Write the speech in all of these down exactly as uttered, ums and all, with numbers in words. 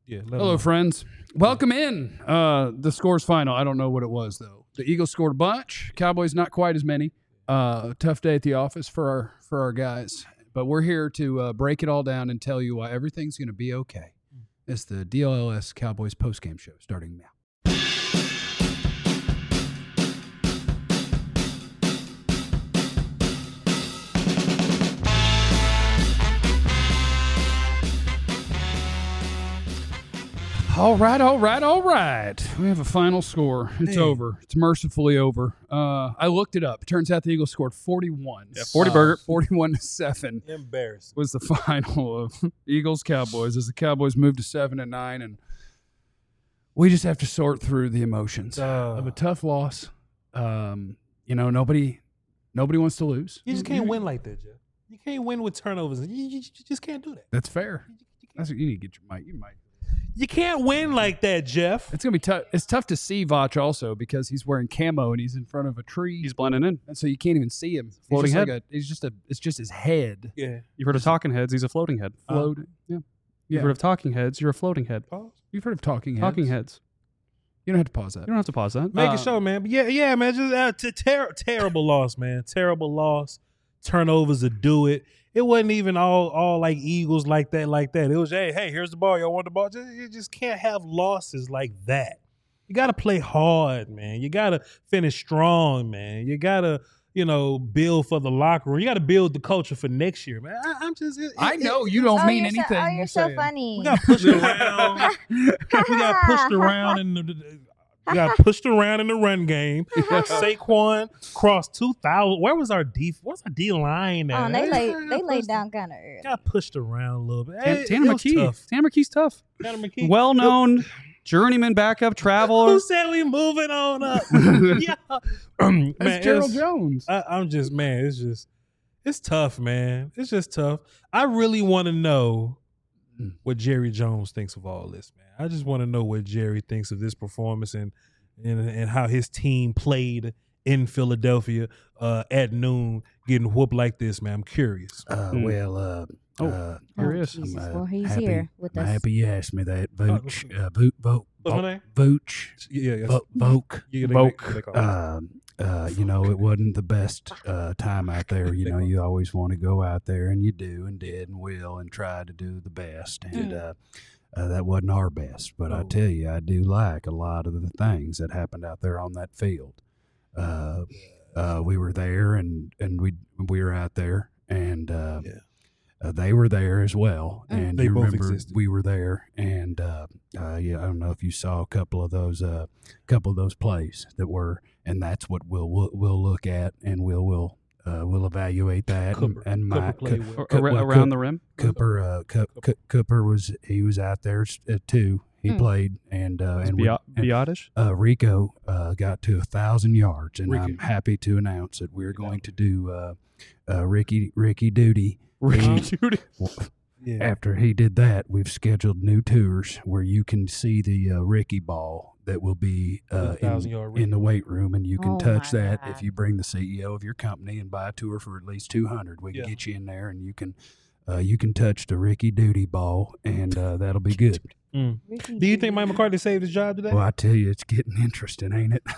Yeah. Hello, friends. Welcome in. Uh, the score's final. I don't know what it was, though. The Eagles scored a bunch. Cowboys not quite as many. Uh, tough day at the office for our for our guys. But we're here to uh, break it all down and tell you why everything's going to be okay. It's the D L L S Cowboys postgame show starting now. All right, all right, all right. We have a final score. It's Man. over. It's mercifully over. Uh, I looked it up. Turns out the Eagles scored forty-one. Yeah, forty Uh, burger. forty-one to seven Embarrassing. was the final of Eagles Cowboys as the Cowboys moved to seven and nine, and we just have to sort through the emotions Uh, of a tough loss. Um, you know, nobody, nobody wants to lose. You just can't win like that, Jeff. You can't win with turnovers. You, you, you just can't do that. That's fair. That's what you need to get your mic. You might. You can't win like that, Jeff. It's gonna be tough. It's tough to see Vach also because he's wearing camo and he's in front of a tree. He's blending in. And so you can't even see him. He's Floating just head. Like a, he's just a. It's just his head Yeah. You've heard of talking heads. He's a floating head. floating. yeah. You've Yeah. heard of talking heads. You're a floating head. Pause. You've heard of talking heads. Talking heads. You don't have to pause that. You don't have to pause that. Make Uh, it show, man. But yeah, yeah, man. Just uh, t- ter- terrible loss, man. Terrible loss. Turnovers to do it. It wasn't even all all like Eagles like that, like that. It was, hey, hey, here's the ball. Y'all want the ball? Just, you just can't have losses like that. You got to play hard, man. You got to finish strong, man. You got to, you know, build for the locker room. You got to build the culture for next year, man. I, I'm just. It, I it- know it- you don't oh, mean you're anything. So, oh, you're you're so saying. funny. We got pushed around. we got pushed around in the. We got pushed around in the run game. Saquon crossed two thousand. Where was our D? What's our D line at? Oh, they laid they laid Pushed- down kind of early. Got pushed around a little bit. Tan- Hey, Tanner it was McKee. tough. Tanner McKee's tough. Tanner McKee. Well-known journeyman backup traveler. Who said we moving on up? yeah, man, That's Gerald it's- Jones. I, I'm just man. It's just it's tough, man. It's just tough. I really want to know Hmm. what Jerry Jones thinks of all this, man. I just want to know what Jerry thinks of this performance and and and how his team played in Philadelphia uh, at noon, getting whooped like this, man. I'm curious. Uh, Hmm. well, uh, Oh, uh, here Oh, he is. Jesus. I'm, uh, Well, he's happy- here with I'm us. happy you asked me that. Oh, Vooch, uh, Voot, Vote, What's my name? Vooch, Yeah, yeah. Vo- Voke. yeah, they- Vogue. they- they call it. Um, uh, you know, it wasn't the best uh, time out there. You know, you always want to go out there, and you do, and did, and will, and try to do the best. And uh, uh, that wasn't our best. But I No. tell you, I do like a lot of the things that happened out there on that field. Uh, uh, we were there, and and we we were out there, and uh, Yeah. uh, they were there as well. Mm. And They you both remember existed. we were there, and uh, uh, yeah, I don't know if you saw a couple of those, uh, couple of those plays that were, and that's what we'll we'll, we'll look at, and we'll we'll uh, we'll evaluate that. Cooper. and, and Cooper my played Co- well. Ar- Co- ar- well, around Co- the rim. Cooper, uh, Co- Co- Cooper was he was out there uh, too. He Hmm. played, and uh, and, we, Bia- and Biotish. uh, Rico uh, got to a thousand yards, and Ricky. I'm happy to announce that we're going to do uh, uh, Ricky Ricky Duty. Ricky Duty. Yeah. After he did that, we've scheduled new tours where you can see the uh, Ricky ball that will be uh, The thousand in, yard Ricky. in the weight room, and you can Oh, touch my that God. if you bring the C E O of your company and buy a tour for at least two hundred. We can Yeah. get you in there, and you can uh, you can touch the Ricky Duty ball, and uh, that'll be good. Mm. Ricky Do you think Duty. Mike McCarthy saved his job today? Well, I tell you, it's getting interesting, ain't it?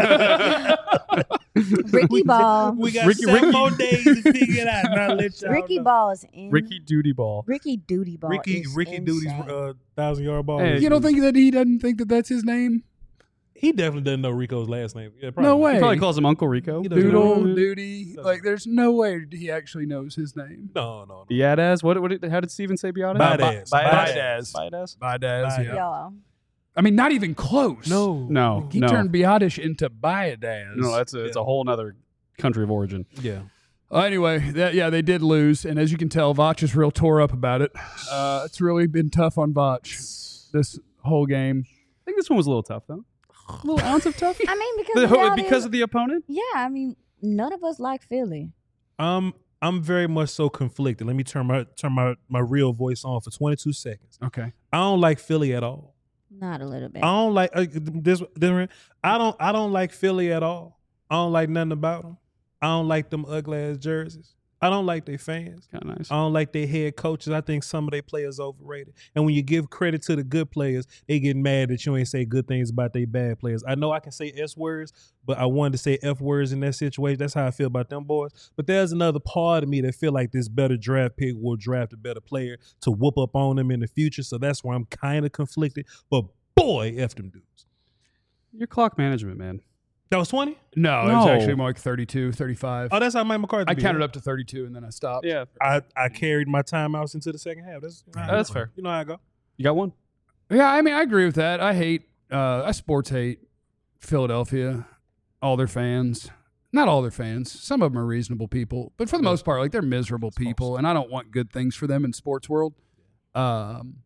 Ricky Ball? We got Ricky- seven Ricky- more days to figure it out. Now let y'all Ricky know. Ball is in. Ricky Duty ball. Ricky Duty Ball. Ricky is Ricky Duty's insane. uh, thousand yard ball. Hey, is- You don't think that he doesn't think that that's his name? he definitely doesn't know Rico's last name? Yeah, probably. No way. He probably calls him Uncle Rico. He doesn't Doodle, know. Duty. Doesn't Like, there's no way he actually knows his name. No, no, no. Biadaz. What? What? Did, how did Steven say Biadaz? Biadaz. Biadaz. Biadaz. Biadaz. Biadaz, Biadaz. yeah. Yeah. I mean, not even close. No, No. He no. turned Biadish into Biadaz. No, that's a, it's Yeah. a whole nother country of origin. Yeah. Uh, anyway, that, yeah, they did lose, and as you can tell, Vach is real tore up about it. Uh, it's really been tough on Vach this whole game. I think this one was a little tough, though. A little ounce of tough. I mean, because the reality because is- of the opponent. yeah, I mean, none of us like Philly. Um, I'm very much so conflicted. Let me turn my turn my, my real voice on for twenty-two seconds. Okay. I don't like Philly at all. Not a little bit. I don't like uh, this. this I don't. I don't like Philly at all. I don't like nothing about them. I don't like them ugly ass jerseys. I don't like their fans. Kind of nice. I don't like their head coaches. I think some of their players overrated. And when you give credit to the good players, they get mad that you ain't say good things about their bad players. I know I can say S words, but I wanted to say F words in that situation. That's how I feel about them boys. But there's another part of me that feel like this better draft pick will draft a better player to whoop up on them in the future. So that's why I'm kind of conflicted. But boy, F them dudes. Your clock management, man. That was twenty? No, it was No. actually more like thirty-two, thirty-five. Oh, that's how Mike McCarthy I be, counted right? up to thirty-two and then I stopped. Yeah. I, I carried my timeouts into the second half. That's, That's fair. You know how I go. You got one? Yeah, I mean, I agree with that. I hate, uh, I sports hate Philadelphia, all their fans. Not all their fans. Some of them are reasonable people, but for the most part, like they're miserable people, and I don't want good things for them in sports world. Um,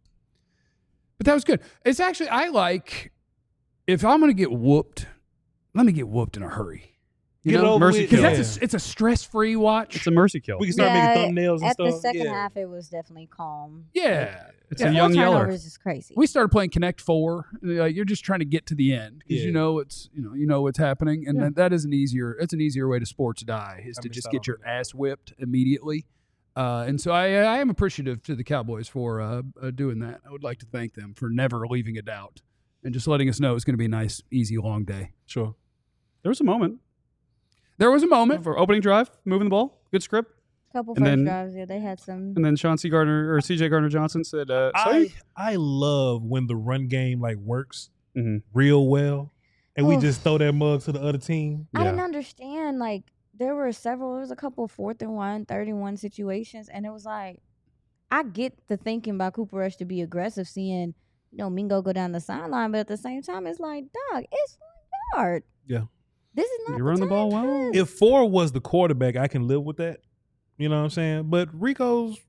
but that was good. It's actually I like if I'm going to get whooped, let me get whooped in a hurry. You Get know, over Mercy with. because kill. that's a, it's a stress free watch. It's a mercy kill. We can start Yeah, making thumbnails and At stuff. the second yeah. half, it was definitely calm. yeah. It's Yeah. a young Four yeller. turnovers is crazy. We started playing Connect Four. Like, you're just trying to get to the end because Yeah. you know it's you know you know what's happening, and Yeah. that, that is an easier it's an easier way to sports die is I to missed just out get on your that. ass whipped immediately. Uh, and so I I am appreciative to the Cowboys for uh, uh, doing that. I would like to thank them for never leaving a doubt and just letting us know it's going to be a nice, easy, long day. Sure. There was a moment There was a moment. for opening drive, moving the ball, good script, couple and first then- drives, yeah, they had some. and then Sean C. Gardner or C J Gardner Johnson said, uh, I I love when the run game like works Mhm. real well, and we Oof. just throw that mug to the other team. I Yeah. didn't understand. Like there were several. There was a couple fourth and one, third and one situations, and it was like, I get the thinking by Cooper Rush to be aggressive, seeing you know Mingo go down the sideline, but at the same time, it's like, dog, it's one yard. Yeah. This is not. You run the time ball for well. this. If Ford was the quarterback, I can live with that. You know what I'm saying? But Rico's,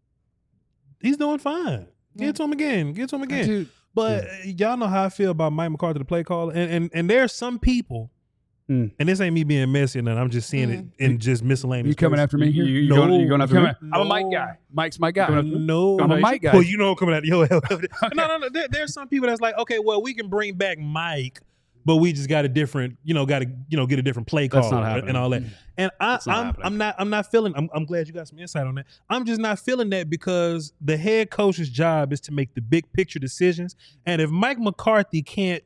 he's doing fine. Yeah. Get to him again. Get to him again. Dude, But uh, y'all know how I feel about Mike McCarthy, the play caller, and and and there are some people, Mm. and this ain't me being messy, and I'm just seeing Mm. it in just miscellaneous. you coming places. after me You, here? you, you No. going, you going after Come me? on. I'm a Mike guy. Mike's my guy. Coming after me? No, I'm a no, Mike guy. Well, you know I'm coming at you. No, no, no. There, there's some people that's like, okay, well, we can bring back Mike, but we just got a different, you know, got to, you know, get a different play call That's not happening. and all that. And I, That's not I'm, happening. I'm not, I'm not feeling. I'm, I'm glad you got some insight on that. I'm just not feeling that because the head coach's job is to make the big picture decisions, and if Mike McCarthy can't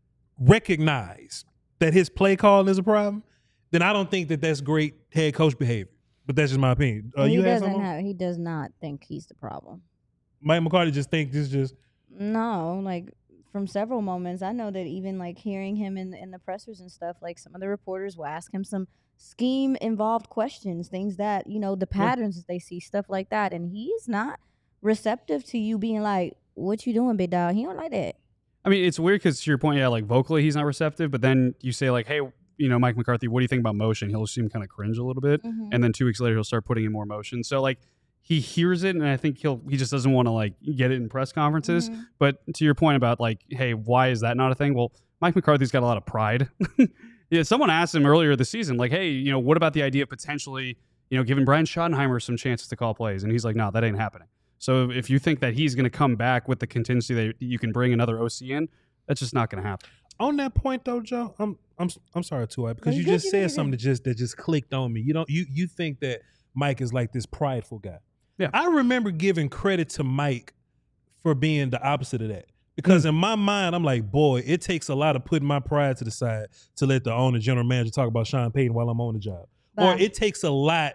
recognize that his play calling is a problem, then I don't think that that's great head coach behavior. But that's just my opinion. Uh, he you had doesn't something? have. He does not think he's the problem. Mike McCarthy just thinks this just. No, like from several moments, I know that even like hearing him in in the pressers and stuff, like some of the reporters will ask him some scheme involved questions, things that you know the patterns that they see, stuff like that, and he is not receptive to you being like, "What you doing, big dog?" He don't like that. I mean, it's weird because to your point, yeah, like vocally he's not receptive, but then you say like, hey, you know, Mike McCarthy, what do you think about motion? He'll seem kind of cringe a little bit, Mhm. and then two weeks later he'll start putting in more motion. So like he hears it, and I think he'll he just doesn't want to like get it in press conferences. Mhm. But to your point about like, hey, why is that not a thing? Well, Mike McCarthy's got a lot of pride. Yeah, someone asked him earlier this season, like, hey, you know, what about the idea of potentially, you know, giving Brian Schottenheimer some chances to call plays? And he's like, no, that ain't happening. So if you think that he's going to come back with the contingency that you can bring another O C in, that's just not going to happen. On that point though, Joe, I'm I'm I'm sorry too, because No, you you good, just you said good, you something good. that just that just clicked on me. You don't you you think that Mike is like this prideful guy. Yeah. I remember giving credit to Mike for being the opposite of that. Because in my mind, I'm like, boy, it takes a lot of putting my pride to the side to let the owner, general manager talk about Sean Payton while I'm on the job. Or Bye. it takes a lot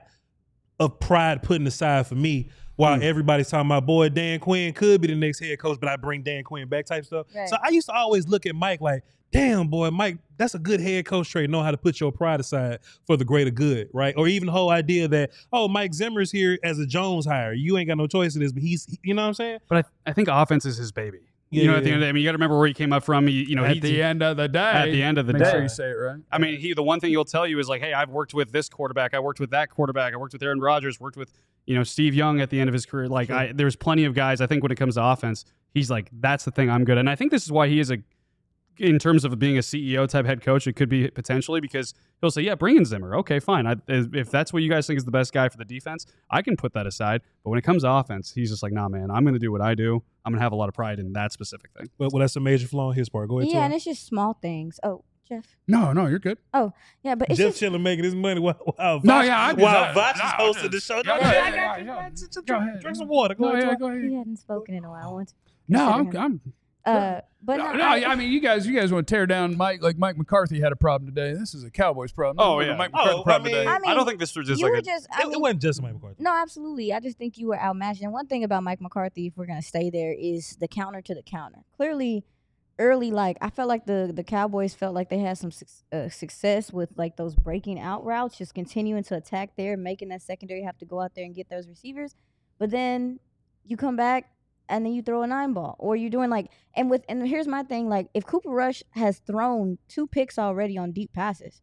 of pride putting aside for me while Mm. everybody's talking about, boy, Dan Quinn could be the next head coach, but I bring Dan Quinn back type stuff. Right. So I used to always look at Mike like, damn, boy, Mike, that's a good head coach trait, know how to put your pride aside for the greater good, right? Or even the whole idea that, oh, Mike Zimmer's here as a Jones hire. You ain't got no choice in this, but he's, you know what I'm saying? But I, I think offense is his baby. Yeah, you know, yeah, at the end of the day, I mean, you got to remember where he came up from. You, you know, at he, the end of the day. at the end of the make day. sure you say it right. I mean, he the one thing he'll tell you is like, hey, I've worked with this quarterback, I worked with that quarterback, I worked with Aaron Rodgers, worked with, you know, Steve Young at the end of his career. Like, Sure. I, there's plenty of guys. I think when it comes to offense, he's like, that's the thing I'm good at. And I think this is why he is a, in terms of being a C E O type head coach, it could be potentially because he'll say, yeah, bring in Zimmer. Okay, fine. I, if that's what you guys think is the best guy for the defense, I can put that aside. But when it comes to offense, he's just like, nah, man, I'm going to do what I do. I'm going to have a lot of pride in that specific thing. But well, that's a major flaw on his part. Go ahead, Yeah, Tori. and it's just small things. Oh, Jeff. No, no, you're good. Yeah, but it's Jeff just chilling making his money while while No, Voch, yeah, I just- while I- Voch is no, hosting the just- show. yeah, No, yeah, no, I yeah, got yeah, you. yeah. Just Go Drink ahead. drink some water. Go No, ahead. yeah, Talk. go ahead. he hadn't spoken in a while. I want to No, consider I'm, him. I'm Uh, but no, no, no, I, I mean, you guys, you guys want to tear down Mike like Mike McCarthy had a problem today. This is a Cowboys problem. Oh, This is a yeah. Mike Oh, McCarthy I problem mean- today. I mean, I don't think this was just you like were a. just. I It, it mean, wasn't just Mike McCarthy. no, absolutely. I just think you were outmatched. And one thing about Mike McCarthy, if we're gonna stay there, is the counter to the counter. Clearly, early, like I felt like the the Cowboys felt like they had some suc uh, success with like those breaking out routes, just continuing to attack there, making that secondary have to go out there and get those receivers. But then you come back and then you throw a nine ball, or you're doing like and with and here's my thing: like if Cooper Rush has thrown two picks already on deep passes,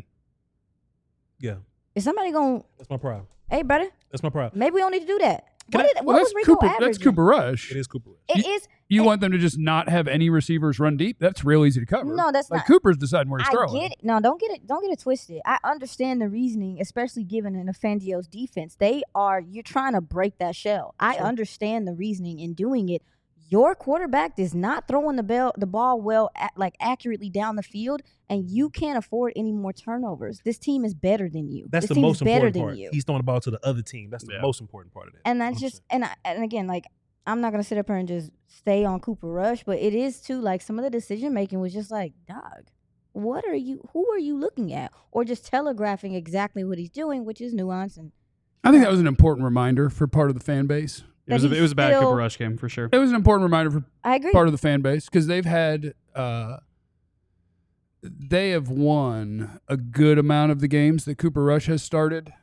Yeah, is somebody going? that's my problem. Hey, brother, That's my problem. maybe we don't need to do that. Can What, I- did, Well, what that's was Rico Cooper. averaging? That's Cooper Rush. It is Cooper Rush. It is. You want them to just not have any receivers run deep? That's real easy to cover. No, that's like not. Cooper's deciding where he's I throwing. get it. No, don't get it. Don't get it twisted. I understand the reasoning, especially given an Fangio's defense. They are. You're trying to break that shell. I Sure. understand the reasoning in doing it. Your quarterback is not throwing the bell, the ball well, at, like accurately down the field, and you can't afford any more turnovers. This team is better than you. That's this the team most is better important than part. you. He's throwing the ball to the other team. That's the Yeah. most important part of that. And that's just and I, and again, like I'm not gonna sit up here and just stay on Cooper Rush, but it is too like some of the decision making was just like, dog, what are you? Who are you looking at? Or just telegraphing exactly what he's doing, which is nuance and I think that was an important reminder for part of the fan base. It was, a, that it was a bad he's still- Cooper Rush game for sure. It was an important reminder for I agree. part of the fan base because they've had uh, they have won a good amount of the games that Cooper Rush has started,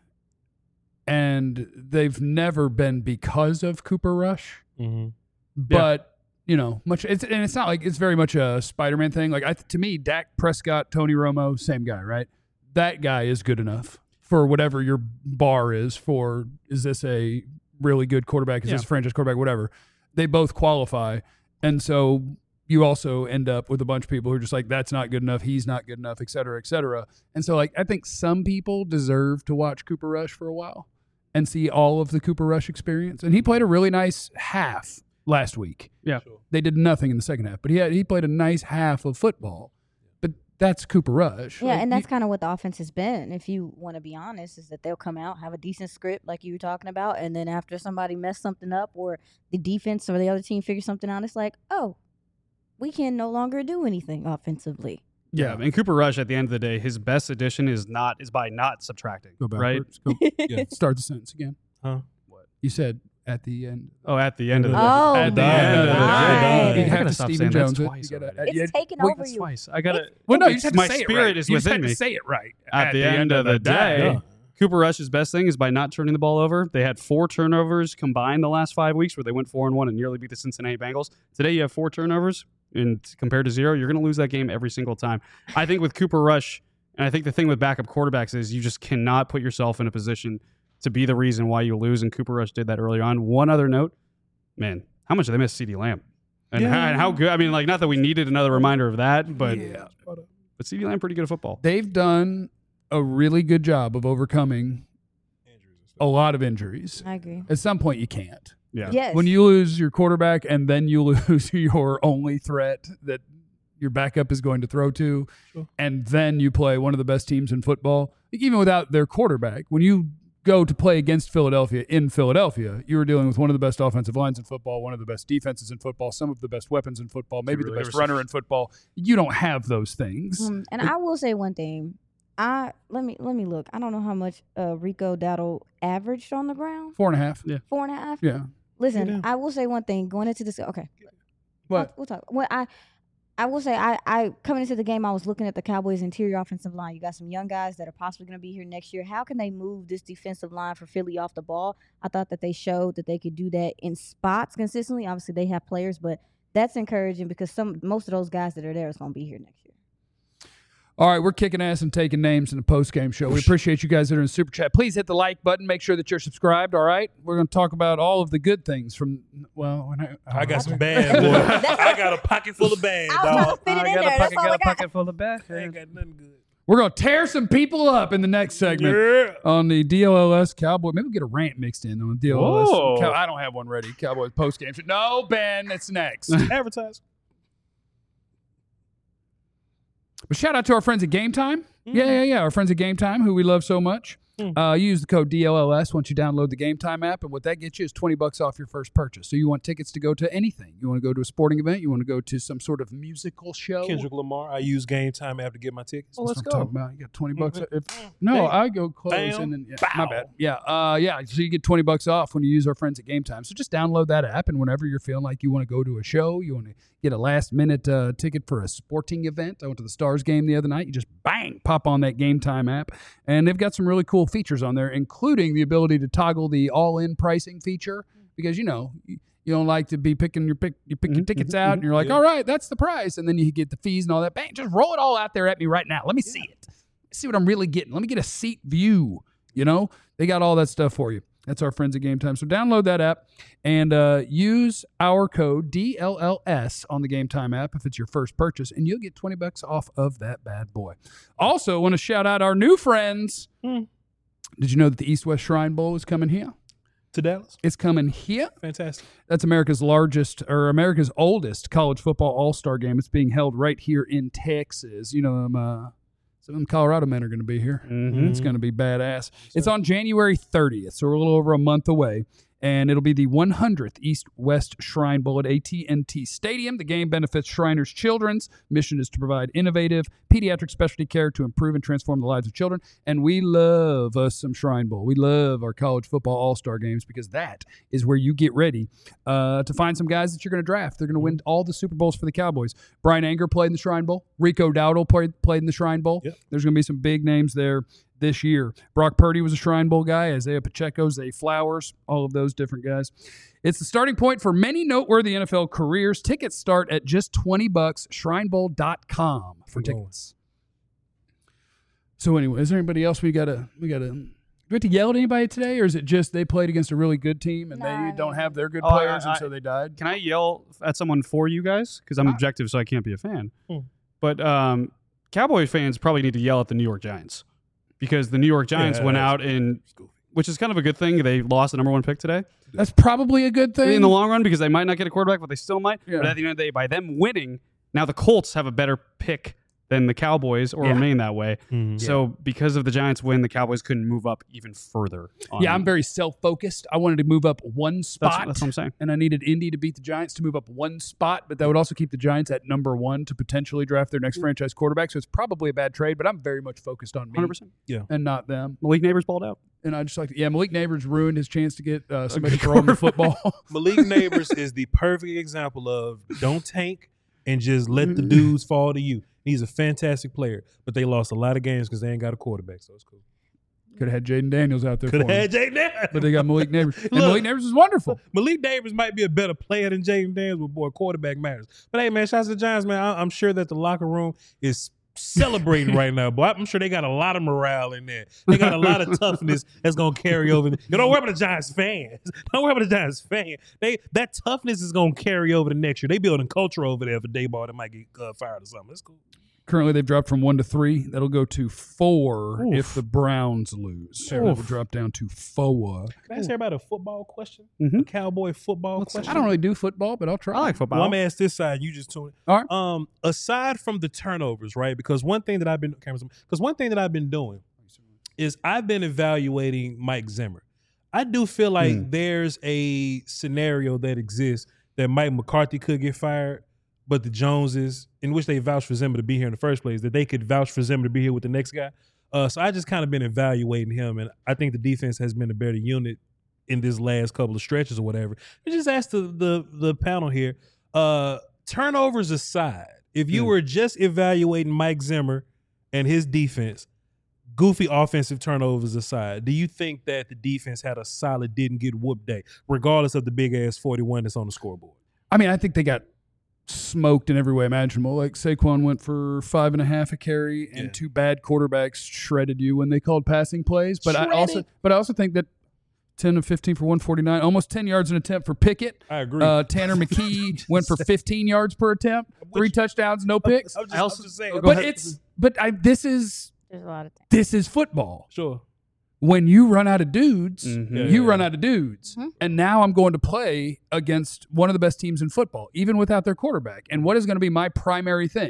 and they've never been because of Cooper Rush. Mm-hmm. But you know, much it's and it's not like it's very much a Spider-Man thing. Like I, to me, Dak Prescott, Tony Romo, same guy, right? That guy is good enough for whatever your bar is for. Is this a really good quarterback? Is Yeah. this a franchise quarterback? Whatever. They both qualify, and so you also end up with a bunch of people who are just like, that's not good enough. He's not good enough, et cetera, et cetera. And so, like, I think some people deserve to watch Cooper Rush for a while and see all of the Cooper Rush experience. And he played a really nice half last week. Yeah. Sure. They did nothing in the second half, but he had, he played a nice half of football. But that's Cooper Rush. Yeah, Like, and that's you- kind of what the offense has been. If you want to be honest, is that they'll come out, have a decent script like you were talking about, and then after somebody messed something up or the defense or the other team figures something out, it's like, oh, we can no longer do anything offensively. Yeah, and Cooper Rush at the end of the day, his best addition is not is by not subtracting. Go right? backwards. Go, Yeah. start the sentence again. Huh? You said at the end. Oh, at the end of the day. Oh, at the my end of the God. day. You I have gotta to stop Stephen saying that Jones it. twice You gotta- already. It's yeah, taken wait, over That's you. twice. I gotta. Well, no, you just have to my say spirit it right. is you just within have me. to say it right. At the end of the day. Yeah. Cooper Rush's best thing is by not turning the ball over. They had four turnovers combined the last five weeks, where they went four and one and nearly beat the Cincinnati Bengals. Today, you have four turnovers, and compared to zero, you're going to lose that game every single time. I think with Cooper Rush, and I think the thing with backup quarterbacks is you just cannot put yourself in a position to be the reason why you lose. And Cooper Rush did that early on. One other note, man, how much did they miss CeeDee Lamb? And, Yeah. how, and how good? I mean, like, not that we needed another reminder of that, but Yeah. but CeeDee Lamb pretty good at football. They've done a really good job of overcoming a lot of injuries. I agree. At some point, you can't. Yeah. Yes. When you lose your quarterback and then you lose your only threat that your backup is going to throw to, Sure. and then you play one of the best teams in football, like even without their quarterback, when you go to play against Philadelphia in Philadelphia, you were dealing with one of the best offensive lines in football, one of the best defenses in football, some of the best weapons in football, maybe really the best ever runner in football. You don't have those things. Um, and I will say one thing. I let me let me look. I don't know how much uh, Rico Dowdle averaged on the ground. Four and a half. Four and a half. Yeah. Listen, Yeah. I will say one thing. Going into this, okay. What? We'll, we'll talk. Well, I, I will say, I, I coming into the game, I was looking at the Cowboys' interior offensive line. You got some young guys that are possibly going to be here next year. How can they move this defensive line for Philly off the ball? I thought that they showed that they could do that in spots consistently. Obviously, they have players, but that's encouraging because some most of those guys that are there is going to be here next year. All right, we're kicking ass and taking names in the post-game show. We appreciate you guys that are in the Super Chat. Please hit the like button. Make sure that you're subscribed, all right? We're going to talk about all of the good things from, well, when I, I got some bad, boy. I got a pocket full of bad, I was trying to dog. fit it in there. That's all I got. full of bad. I ain't got nothing good. We're going to tear some people up in the next segment Yeah. on the D L L S Cowboy. Maybe we'll get a rant mixed in on the D L L S. Whoa. Cow- I don't have one ready. Cowboys post-game show. No, Ben, that's next. Advertise. But shout out to our friends at Game Time. Yeah, yeah, yeah. Our friends at Game Time, who we love so much. Uh, use the code D L L S once you download the Game Time app, and what that gets you is twenty bucks off your first purchase. So you want tickets to go to anything. You want to go to a sporting event. You want to go to some sort of musical show. Kendrick Lamar. I use Game Time app to get my tickets. Well, let's That's go. what I'm About. You got twenty bucks. Mhm. If, no, Bam. I go close Bam. and then yeah, my Bow. bad. Yeah, uh, yeah. So you get twenty bucks off when you use our friends at Game Time. So just download that app, and whenever you're feeling like you want to go to a show, you want to get a last minute uh, ticket for a sporting event. I went to the Stars game the other night. You just bang pop on that Game Time app, and they've got some really cool features on there, including the ability to toggle the all-in pricing feature, because you know you, you don't like to be picking your pick you pick your tickets out and you're like, Yeah. all right, that's the price, and then you get the fees and all that. Bang, just roll it all out there at me right now. Let me see it. See what I'm really getting. Let me get a seat view. You know, they got all that stuff for you. That's our friends at Game Time. So download that app and uh, use our code D L L S on the Game Time app if it's your first purchase, and you'll get twenty bucks off of that bad boy. Also, want to shout out our new friends. Hmm. Did you know that the East West Shrine Bowl is coming here? To Dallas. It's coming here. Fantastic. That's America's largest or America's oldest college football all-star game. It's being held right here in Texas. You know, um, uh, some of them Colorado men are going to be here. Mhm. It's going to be badass. It's on January thirtieth, so we're a little over a month away. And it'll be the one hundredth East West Shrine Bowl at A T and T Stadium. The game benefits Shriners Children's. Mission is to provide innovative pediatric specialty care to improve and transform the lives of children. And we love us some Shrine Bowl. We love our college football all-star games because that is where you get ready uh, to find some guys that you're going to draft. They're going to win all the Super Bowls for the Cowboys. Brian Anger played in the Shrine Bowl. Rico Dowdle played, played in the Shrine Bowl. Yep. There's going to be some big names there this year. Brock Purdy was a Shrine Bowl guy. Isaiah Pacheco, Zay Flowers, all of those different guys. It's the starting point for many noteworthy N F L careers. Tickets start at just twenty bucks. Shrine Bowl dot com for Come on. tickets. So anyway, is there anybody else we gotta we gotta do we have to yell at anybody today, or is it just they played against a really good team and Nah, they I don't mean- have their good Oh, I- players I- and so they died? Can I yell at someone for you guys? Because I'm Ah. objective, so I can't be a fan. Hmm. But um, Cowboy fans probably need to yell at the New York Giants because the New York Giants Yeah, went that's- out and, which is kind of a good thing. They lost the number one pick today That's probably a good thing. in the long run because they might not get a quarterback, but they still might. Yeah. But at the end of the day, by them winning, now the Colts have a better pick than the Cowboys, or Yeah. remain that way. Mhm. So because of the Giants win, the Cowboys couldn't move up even further. on- Yeah, I'm very self-focused. I wanted to move up one That's, spot. that's what I'm saying. and I needed Indy to beat the Giants to move up one spot, but that would also keep the Giants at number one to potentially draft their next franchise quarterback. So it's probably a bad trade, but I'm very much focused on me one hundred percent. and not them. Malik Neighbors balled out. And I just like, yeah, Malik Neighbors ruined his chance to get uh, somebody to throw him the football. Malik Neighbors is the perfect example of don't tank and just let the dudes fall to you. He's a fantastic player, but they lost a lot of games because they ain't got a quarterback, so it's cool. Could have had Jaden Daniels out there Could for have him. had Jay Daniels. But they got Malik Neighbors. And Look. Malik Neighbors is wonderful. Malik Neighbors might be a better player than Jaden Daniels, but boy, quarterback matters. But hey, man, shout out to the Giants, man. I- I'm sure that the locker room is celebrating right now, boy. I'm sure they got a lot of morale in there. They got a lot of toughness that's gonna carry over. You don't worry about the Giants fans. Don't worry about the Giants fans. They that toughness is gonna carry over the next year. They building culture over there for Dayball that might get uh, fired or something. That's cool. Currently, they've dropped from one to three. That'll go to four Oof. if the Browns lose. So it will drop down to four. Can I ask everybody a football question? Mhm. A cowboy football question? I don't really do football, but I'll try. I like football. Well, I'm gonna ask this side. You just tune. All right. Um, aside from the turnovers, right? Because one thing that I've been because one thing that I've been doing is I've been evaluating Mike Zimmer. I do feel like Hmm. there's a scenario that exists that Mike McCarthy could get fired, but the Joneses, in which they vouched for Zimmer to be here in the first place, that they could vouch for Zimmer to be here with the next guy. Uh, so I just kind of been evaluating him, and I think the defense has been a better unit in this last couple of stretches or whatever. I just asked the the, the panel here, uh, turnovers aside, if you Mm. were just evaluating Mike Zimmer and his defense, goofy offensive turnovers aside, do you think that the defense had a solid didn't get whooped day, regardless of the big ass forty-one that's on the scoreboard? I mean, I think they got smoked in every way imaginable. Like Saquon went for five and a half a carry, and Yeah. two bad quarterbacks shredded you when they called passing plays. But I also, Shredded? but I also think that ten of fifteen for one forty-nine, almost ten yards an attempt for Pickett. I agree. Uh, Tanner McKee went for fifteen yards per attempt, three touchdowns, no picks. I'm just, I also- I'm just saying. Go But ahead. it's, but I, this is There's a lot of things. this is football. sure. When you run out of dudes, Mhm. Yeah, you yeah, run yeah. out of dudes. Mhm. And now I'm going to play against one of the best teams in football, even without their quarterback. And what is going to be my primary thing?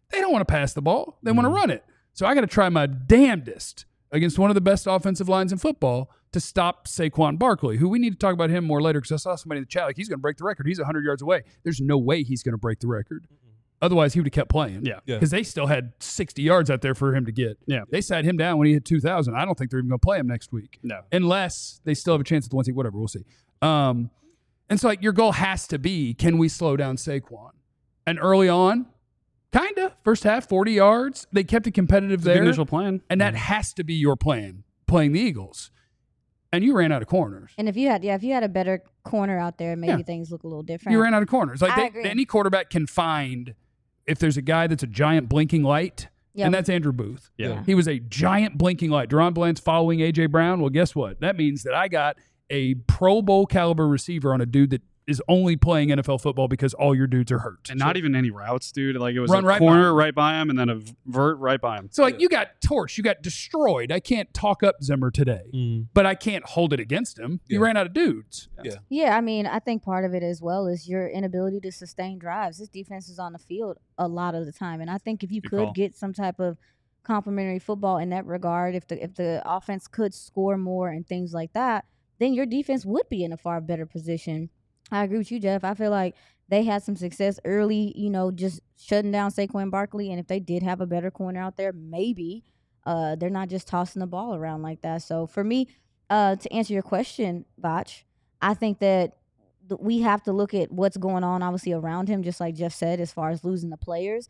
They don't want to pass the ball. They want to Mhm. run it. So I got to try my damnedest against one of the best offensive lines in football to stop Saquon Barkley, who we need to talk about him more later because I saw somebody in the chat like he's going to break the record. He's one hundred yards away. There's no way he's going to break the record. Otherwise, he would have kept playing. Yeah. Yeah. Because they still had sixty yards out there for him to get. Yeah. They sat him down when he hit two thousand. I don't think they're even going to play him next week. No. Unless they still have a chance at the one seed, whatever. We'll see. Um, and so, like, your goal has to be, can we slow down Saquon? And early on, kind of. First half, forty yards. They kept it competitive It's a good there. initial plan. And that has to be your plan, playing the Eagles. And you ran out of corners. And if you had, yeah, if you had a better corner out there, maybe Yeah. things look a little different. You ran out of corners. Like I they, agree. any quarterback can find if there's a guy that's a giant blinking light, Yep. and that's Andrew Booth. Yeah. Yeah. He was a giant blinking light. Deron Bland's following A J Brown. Well, guess what? That means that I got a Pro Bowl caliber receiver on a dude that is only playing N F L football because all your dudes are hurt. And not even any routes, dude. Like it was Run a right by corner him. right by him and then a vert right by him. So, like, you got torched. You got destroyed. I can't talk up Zimmer today, Mm. but I can't hold it against him. He Yeah. ran out of dudes. Yeah, I mean, I think part of it as well is your inability to sustain drives. This defense is on the field a lot of the time, and I think if you Good could call. get some type of complementary football in that regard, if the if the offense could score more and things like that, then your defense would be in a far better position. I agree with you, Jeff. I feel like they had some success early, you know, just shutting down Saquon Barkley, and if they did have a better corner out there, maybe uh, they're not just tossing the ball around like that. So for me, uh, to answer your question, Botch, I think that th- we have to look at what's going on, obviously, around him, just like Jeff said, as far as losing the players.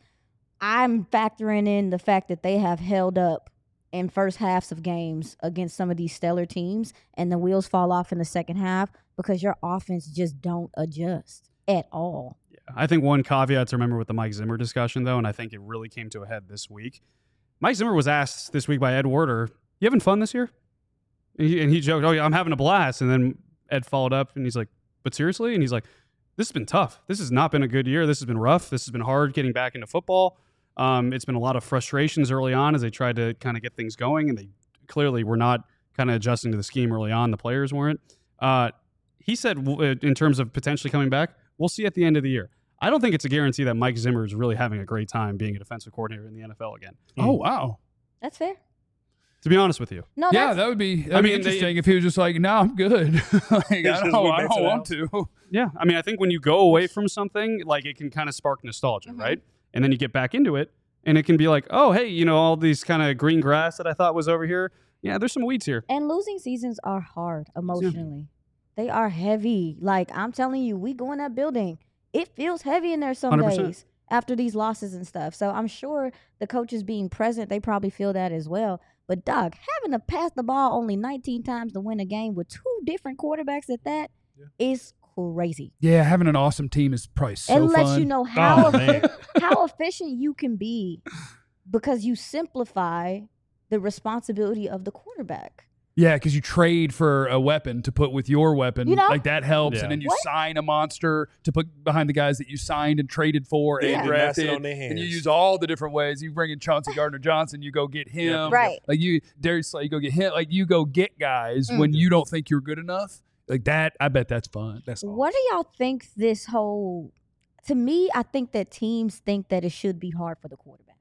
I'm factoring in the fact that they have held up in first halves of games against some of these stellar teams, and the wheels fall off in the second half because your offense just don't adjust at all. I think one caveat to remember with the Mike Zimmer discussion, though, and I think it really came to a head this week. Mike Zimmer was asked this week by Ed Werder, "You having fun this year?" And he, and he joked, "Oh yeah, I'm having a blast." And then Ed followed up, and he's like, "But seriously?" And he's like, "This has been tough. This has not been a good year. This has been rough. This has been hard getting back into football. Um, it's been a lot of frustrations early on as they tried to kind of get things going, and they clearly were not kind of adjusting to the scheme early on. The players weren't." Uh, he said, w- in terms of potentially coming back, we'll see at the end of the year. I don't think it's a guarantee that Mike Zimmer is really having a great time being a defensive coordinator in the N F L again. Oh, wow. That's fair. To be honest with you, No, Yeah, that's, that would be, that'd I be mean, they- interesting if he was just like, no, I'm good. like, I just don't, went I back to don't the want house. to. yeah. I mean, I think when you go away from something, like it can kind of spark nostalgia, Mhm. right? And then you get back into it, and it can be like, oh, hey, you know, all these kind of green grass that I thought was over here. Yeah, there's some weeds here. and losing seasons are hard emotionally. They are heavy. Like, I'm telling you, we go in that building, it feels heavy in there some one hundred percent. days after these losses and stuff. So I'm sure the coaches being present, they probably feel that as well. But, Doug, having to pass the ball only nineteen times to win a game with two different quarterbacks at that is Yeah. crazy. Yeah, having an awesome team is probably so it lets fun. you know how, Oh, man. how efficient you can be because you simplify the responsibility of the quarterback. Yeah, because you trade for a weapon to put with your weapon. You know? Like that helps. Yeah. And then you What? sign a monster to put behind the guys that you signed and traded for Yeah. and They master drafted. on their hands. And you use all the different ways. You bring in Chauncey Gardner Johnson, you go get him. Right. Like you, Darius Slay, you go get him. Like you go get guys when Mm. you don't think you're good enough. Like that, I bet that's fun. That's all. What do y'all think this whole to me, I think that teams think that it should be hard for the quarterback.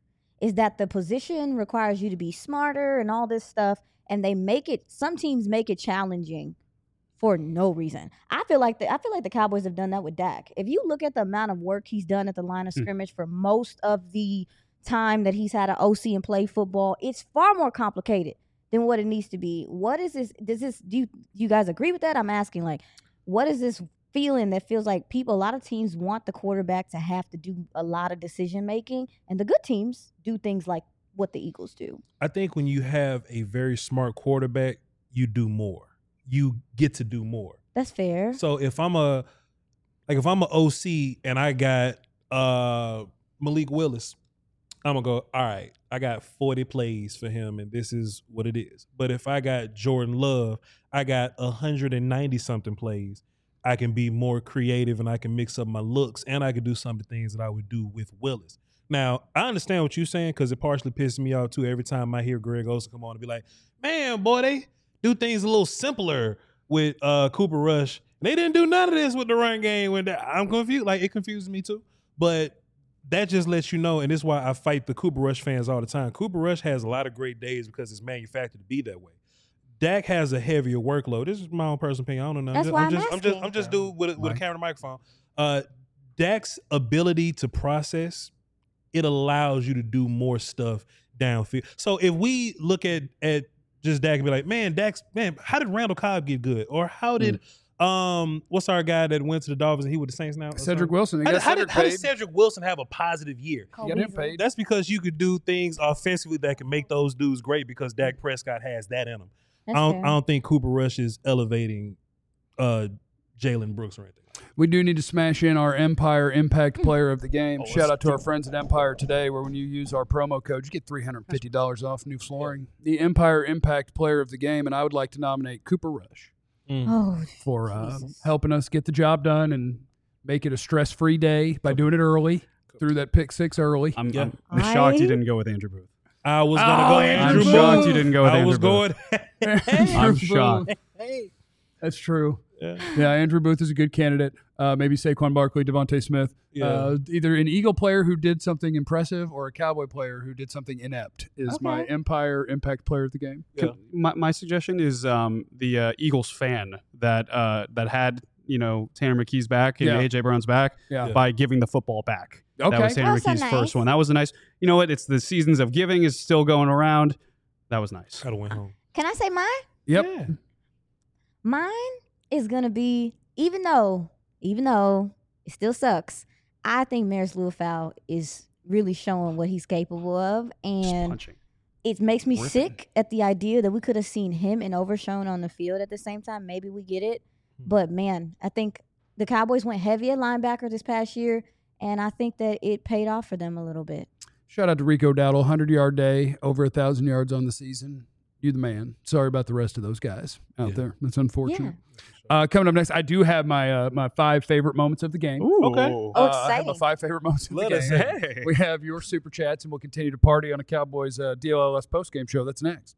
Is that the position requires you to be smarter and all this stuff, and they make it some teams make it challenging for no reason. I feel like the I feel like the Cowboys have done that with Dak. If you look at the amount of work he's done at the line of Hmm. scrimmage for most of the time that he's had an O C and play football, it's far more complicated than what it needs to be. What is this? Does this do you, do you guys agree with that? I'm asking, like, what is this feeling that feels like people, a lot of teams want the quarterback to have to do a lot of decision making, and the good teams do things like what the Eagles do. I think when you have a very smart quarterback, you do more. You get to do more. That's fair. So if I'm a like if I'm a O C and I got uh Malik Willis, I'm gonna go, all right, I got forty plays for him and this is what it is. But if I got Jordan Love, I got one hundred ninety something plays. I can be more creative and I can mix up my looks and I can do some of the things that I would do with Willis. Now, I understand what you're saying because it partially pisses me off too every time I hear Greg Olsen come on and be like, man, boy, they do things a little simpler with uh, Cooper Rush. They didn't do none of this with the run game. When the, I'm confused. Like, it confuses me too. But that just lets you know, and this is why I fight the Cooper Rush fans all the time. Cooper Rush has a lot of great days because it's manufactured to be that way. Dak has a heavier workload. This is my own personal opinion. I don't know. That's I'm why just, I'm I'm just, asking. I'm just dude with a, with a Right. camera and microphone. Uh, Dak's ability to process, it allows you to do more stuff downfield. So if we look at at just Dak and be like, man, Dak's man, how did Randall Cobb get good? Or how did um what's our guy that went to the Dolphins and he with the Saints now? Cedric Wilson. They How, got did, how, Cedric did, how did paid. Cedric Wilson have a positive year? You got him paid. That's because you could do things offensively that can make those dudes great because Dak Prescott has that in him. That's I don't, fair. I don't think Cooper Rush is elevating uh, Jalen Brooks or anything. We do need to smash in our Empire Impact Player of the Game. Oh, Shout let's out to do our it. friends at Empire today, where when you use our promo code, you get three hundred fifty dollars off new flooring. The Empire Impact Player of the Game, and I would like to nominate Cooper Rush Oh, for uh, Jesus. helping us get the job done and make it a stress-free day by doing it early, through that pick six early. I'm, Yeah. I'm, I'm shocked you I- didn't go with Andrew Booth. I was gonna Oh, go Andrew Andrew Booth. Booth. I'm shocked you didn't go with I Andrew was Booth. going. I'm Andrew shocked. Booth. That's true. Yeah. Yeah, Andrew Booth is a good candidate. Uh, maybe Saquon Barkley, Devontae Smith. Yeah. Uh, either an Eagle player who did something impressive or a Cowboy player who did something inept is my Okay. Empire Impact Player of the Game. Yeah. My, my suggestion is um, the uh, Eagles fan that uh, that had you know Tanner McKee's back and Yeah. A J Brown's back Yeah. by giving the football back. Okay. That was Tanner Oh, so McKee's nice. first one. That was a nice. You know what? It's the seasons of giving is still going around. That was nice. Gotta win home. Can I say mine? Yep. Yeah. Mine is gonna be, even though, even though it still sucks, I think Maris Lewfow is really showing what he's capable of, Just and punching. it makes me Worth it. sick at the idea that we could have seen him and Overshown on the field at the same time. Maybe we get it, Hmm. but man, I think the Cowboys went heavy at linebacker this past year, and I think that it paid off for them a little bit. Shout out to Rico Dowdle, hundred-yard day, over one thousand yards on the season. You the man. Sorry about the rest of those guys out Yeah. there. That's unfortunate. Uh, coming up next, I do have my uh, my five favorite moments of the game. Okay. Oh, Uh, I have my exciting. five favorite moments of Let the us game. know. Hey. We have your super chats, and we'll continue to party on a Cowboys uh, D L L S postgame show. That's next.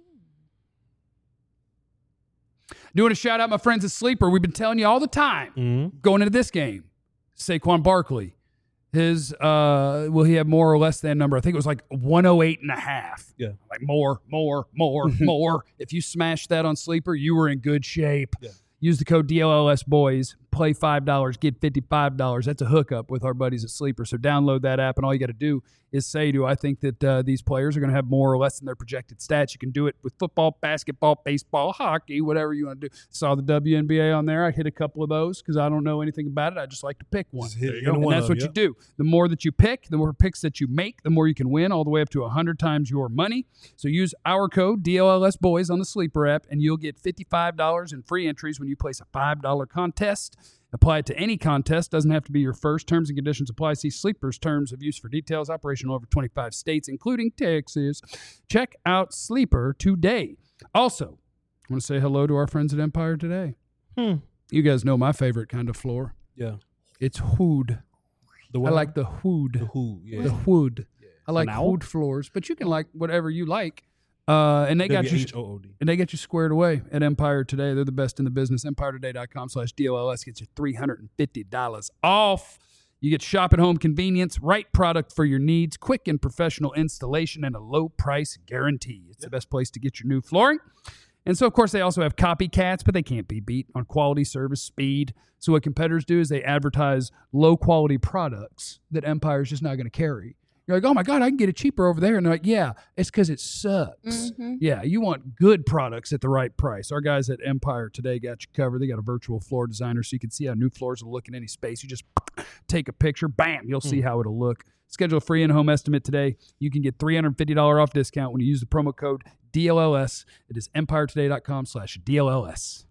Doing a shout out, my friends at Sleeper. We've been telling you all the time Mhm. going into this game. Saquon Barkley, his uh, will he have more or less than number? I think it was like one oh eight and a half. Yeah. Like more, more, more, more. If you smashed that on Sleeper, you were in good shape. Yeah. Use the code D L L S boys. Play five dollars, get fifty-five dollars. That's a hookup with our buddies at Sleeper. So download that app, and all you got to do is say, do I think that uh, these players are going to have more or less than their projected stats? You can do it with football, basketball, baseball, hockey, whatever you want to do. Saw the W N B A on there. I hit a couple of those because I don't know anything about it. I just like to pick one. Just hit There you any go. one And that's of what them, you do. The more that you pick, the more picks that you make, the more you can win, all the way up to one hundred times your money. So use our code D L L S boys on the Sleeper app, and you'll get fifty-five dollars in free entries when you place a five dollar contest. Apply it to any contest. Doesn't have to be your first. Terms and conditions apply. See Sleeper's terms of use for details. Operational over twenty-five states, including Texas. Check out Sleeper today. Also, I want to say hello to our friends at Empire today. Hmm. You guys know my favorite kind of floor. Yeah. It's wood. The I what? like the the wood. who. Yeah. The wood. I like An owl? wood floors, but you can like whatever you like. Uh, and they got you. W H O O D. And they get you squared away at Empire Today. They're the best in the business. Empire Today dot com slash D L L S gets you three hundred fifty dollars off. You get shop at home convenience, right product for your needs, quick and professional installation, and a low price guarantee. It's the best place to get your new flooring. And so, of course, they also have copycats, but they can't be beat on quality, service, speed. So what competitors do is they advertise low-quality products that Empire's just not going to carry. You're like, oh, my God, I can get it cheaper over there. And they're like, yeah, it's because it sucks. Mhm. Yeah, you want good products at the right price. Our guys at Empire Today got you covered. They got a virtual floor designer so you can see how new floors will look in any space. You just take a picture, bam, you'll see how it'll look. Schedule a free in-home estimate today. You can get three hundred fifty dollars off discount when you use the promo code D L L S. It is empire today dot com slash D L L S.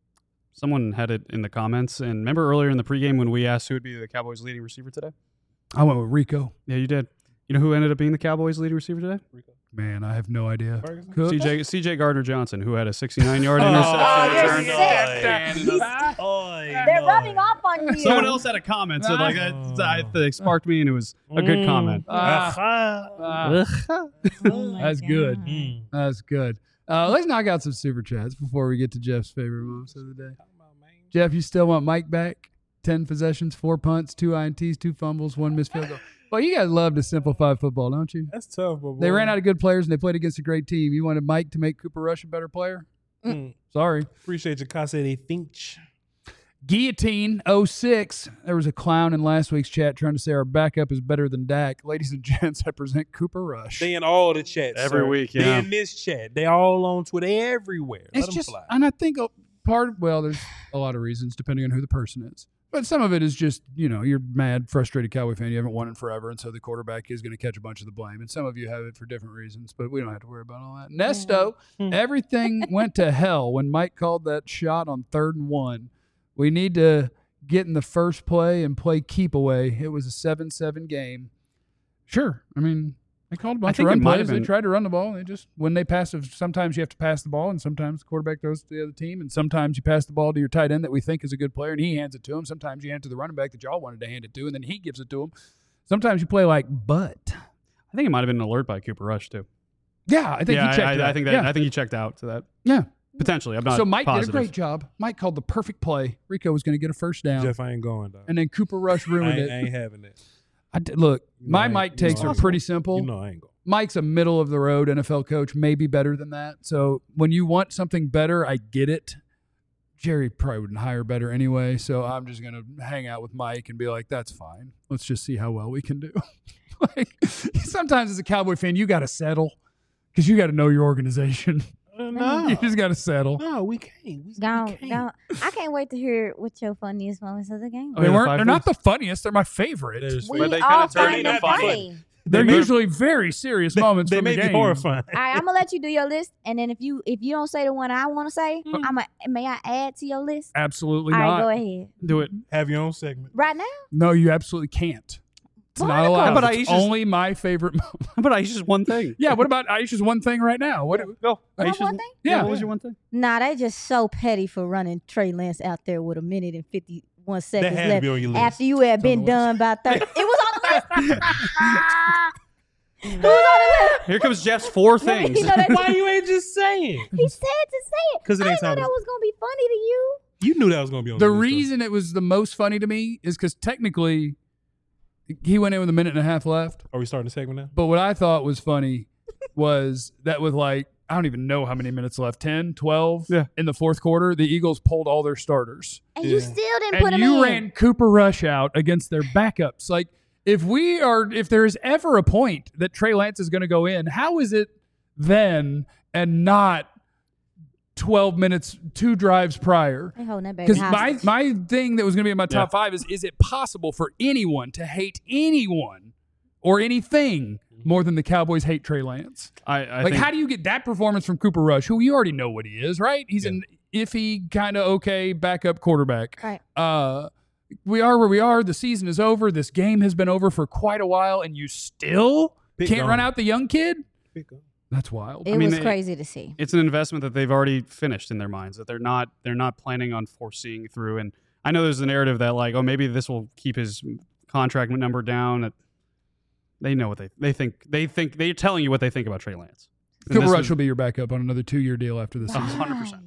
Someone had it in the comments, and remember earlier in the pregame when we asked who would be the Cowboys' leading receiver today? I went with Rico. Yeah, you did. You know who ended up being the Cowboys' leading receiver today? Man, I have no idea. Ferguson? Cook? C J C J Gardner Johnson, who had a sixty-nine yard Oh, interception you're return. sick. Oh, They're rubbing off on you. Someone else had a comment, so like that, that, that sparked me, and it was a good Mm. comment. Ah, Ah. ah, Oh my That's good. God. Mm. that's good. Uh, let's knock out some super chats before we get to Jeff's favorite moments of the day. Jeff, you still want Mike back? ten possessions, four punts, two I N Ts, two fumbles, one missed field goal. Well, you guys love to simplify football, don't you? That's tough, but They boy. ran out of good players and they played against a great team. You wanted Mike to make Cooper Rush a better player? Mm. Sorry. Appreciate your Casa de Finch. Guillotine oh six. There was a clown in last week's chat trying to say our backup is better than Dak. Ladies and gents, I present Cooper Rush. They in all the chats Every sir. week, They yeah. in this chat. They all on Twitter everywhere. Let It's them just, fly. and I think a part, well, there's a lot of reasons depending on who the person is. But some of it is just, you know, you're mad, frustrated Cowboy fan. You haven't won in forever, and so the quarterback is going to catch a bunch of the blame. And some of you have it for different reasons, but we don't have to worry about all that. Nesto, Hmm. everything went to hell when Mike called that shot on third and one. We need to get in the first play and play keep away. It was a seven seven game. Sure. I mean, they called a bunch of think run it might plays. have They been- tried to run the ball. They just, when they pass, sometimes you have to pass the ball, and sometimes the quarterback throws it to the other team, and sometimes you pass the ball to your tight end that we think is a good player, and he hands it to him. Sometimes you hand it to the running back that y'all wanted to hand it to, and then he gives it to him. Sometimes you play like butt. I think it might have been an alert by Cooper Rush too. Yeah, I think yeah, he checked I, that. I think that. Yeah. I think he checked out to that. yeah. Potentially, I'm not. So Mike positive. did a great job. Mike called the perfect play. Rico was going to get a first down, Jeff, I ain't going, dog. and then Cooper Rush I ruined ain't, it. I ain't having it. I did, look, You know my I ain't- Mike you takes know are I- pretty simple. You know I ain't going. Mike's a middle of the road N F L coach, maybe better than that. So when you want something better, I get it. Jerry probably wouldn't hire better anyway. So I'm just going to hang out with Mike and be like, that's fine. Let's just see how well we can do. Like, sometimes as a Cowboy fan, you got to settle because you got to know your organization. Uh, no, You just got to settle. no, we can't. We, we Gone, can't. gone. I can't wait to hear what your funniest moments of the game. Oh, They yeah, the weren't. five They're not things? the funniest. They're my favorite. There's- We But they all kinda turn find into them funny. funny. They're may- usually very serious They, moments they from may the be game. horrifying. All right, I'm gonna let you do your list, and then if you if you don't say the one I want to say, Mm. I'm a, may I add to your list? Absolutely All right, not. go ahead. Do it. Have your own segment. Right now, No, you absolutely can't. It's not Barnacle. allowed. But It's Aisha's- only my favorite moment. But Aisha's one thing. Yeah, what about Aisha's one thing right now? What? Go. my Aisha's, one thing? Yeah. What was your one thing? Nah, they just so petty for running Trey Lance out there with a minute and fifty one That seconds had to left be on your list. after you had been on the list. done by thirty. It was on the list. It was on the list. Here comes Jeff's four No, things. you know that- Why you ain't just saying? He said to say it 'Cause it I ain't didn't know time that to- was gonna be funny to you. You knew that was gonna be on The the list, though. reason it was the most funny to me is because technically he went in with a minute and a half left. Are we starting the segment now? But what I thought was funny was that with like, I don't even know how many minutes left, ten, twelve Yeah. in the fourth quarter, the Eagles pulled all their starters. And you Yeah. still didn't put And him you in. ran Cooper Rush out against their backups. Like, if we are, if there is ever a point that Trey Lance is going to go in, how is it then and not twelve minutes, two drives prior? They holding that baby Because my, hostage. my thing that was going to be in my top Yeah. five is, is it possible for anyone to hate anyone or anything more than the Cowboys hate Trey Lance? I, I Like, think, how do you get that performance from Cooper Rush, who you already know what he is, right? He's Yeah. an iffy, kind of okay backup quarterback. Right. Uh, we are where we are. The season is over. This game has been over for quite a while, and you still Pick can't run on. out the young kid? Pick on. That's wild. It I mean, was they- crazy to see. it's an investment that they've already finished in their minds, that they're not they're not planning on foreseeing through. And I know there's a narrative that like, oh, maybe this will keep his contract number down. That they know what they they think they think they're telling you what they think about Trey Lance. And Cooper this Rush was- will be your backup on another two-year deal after this season. hundred percent.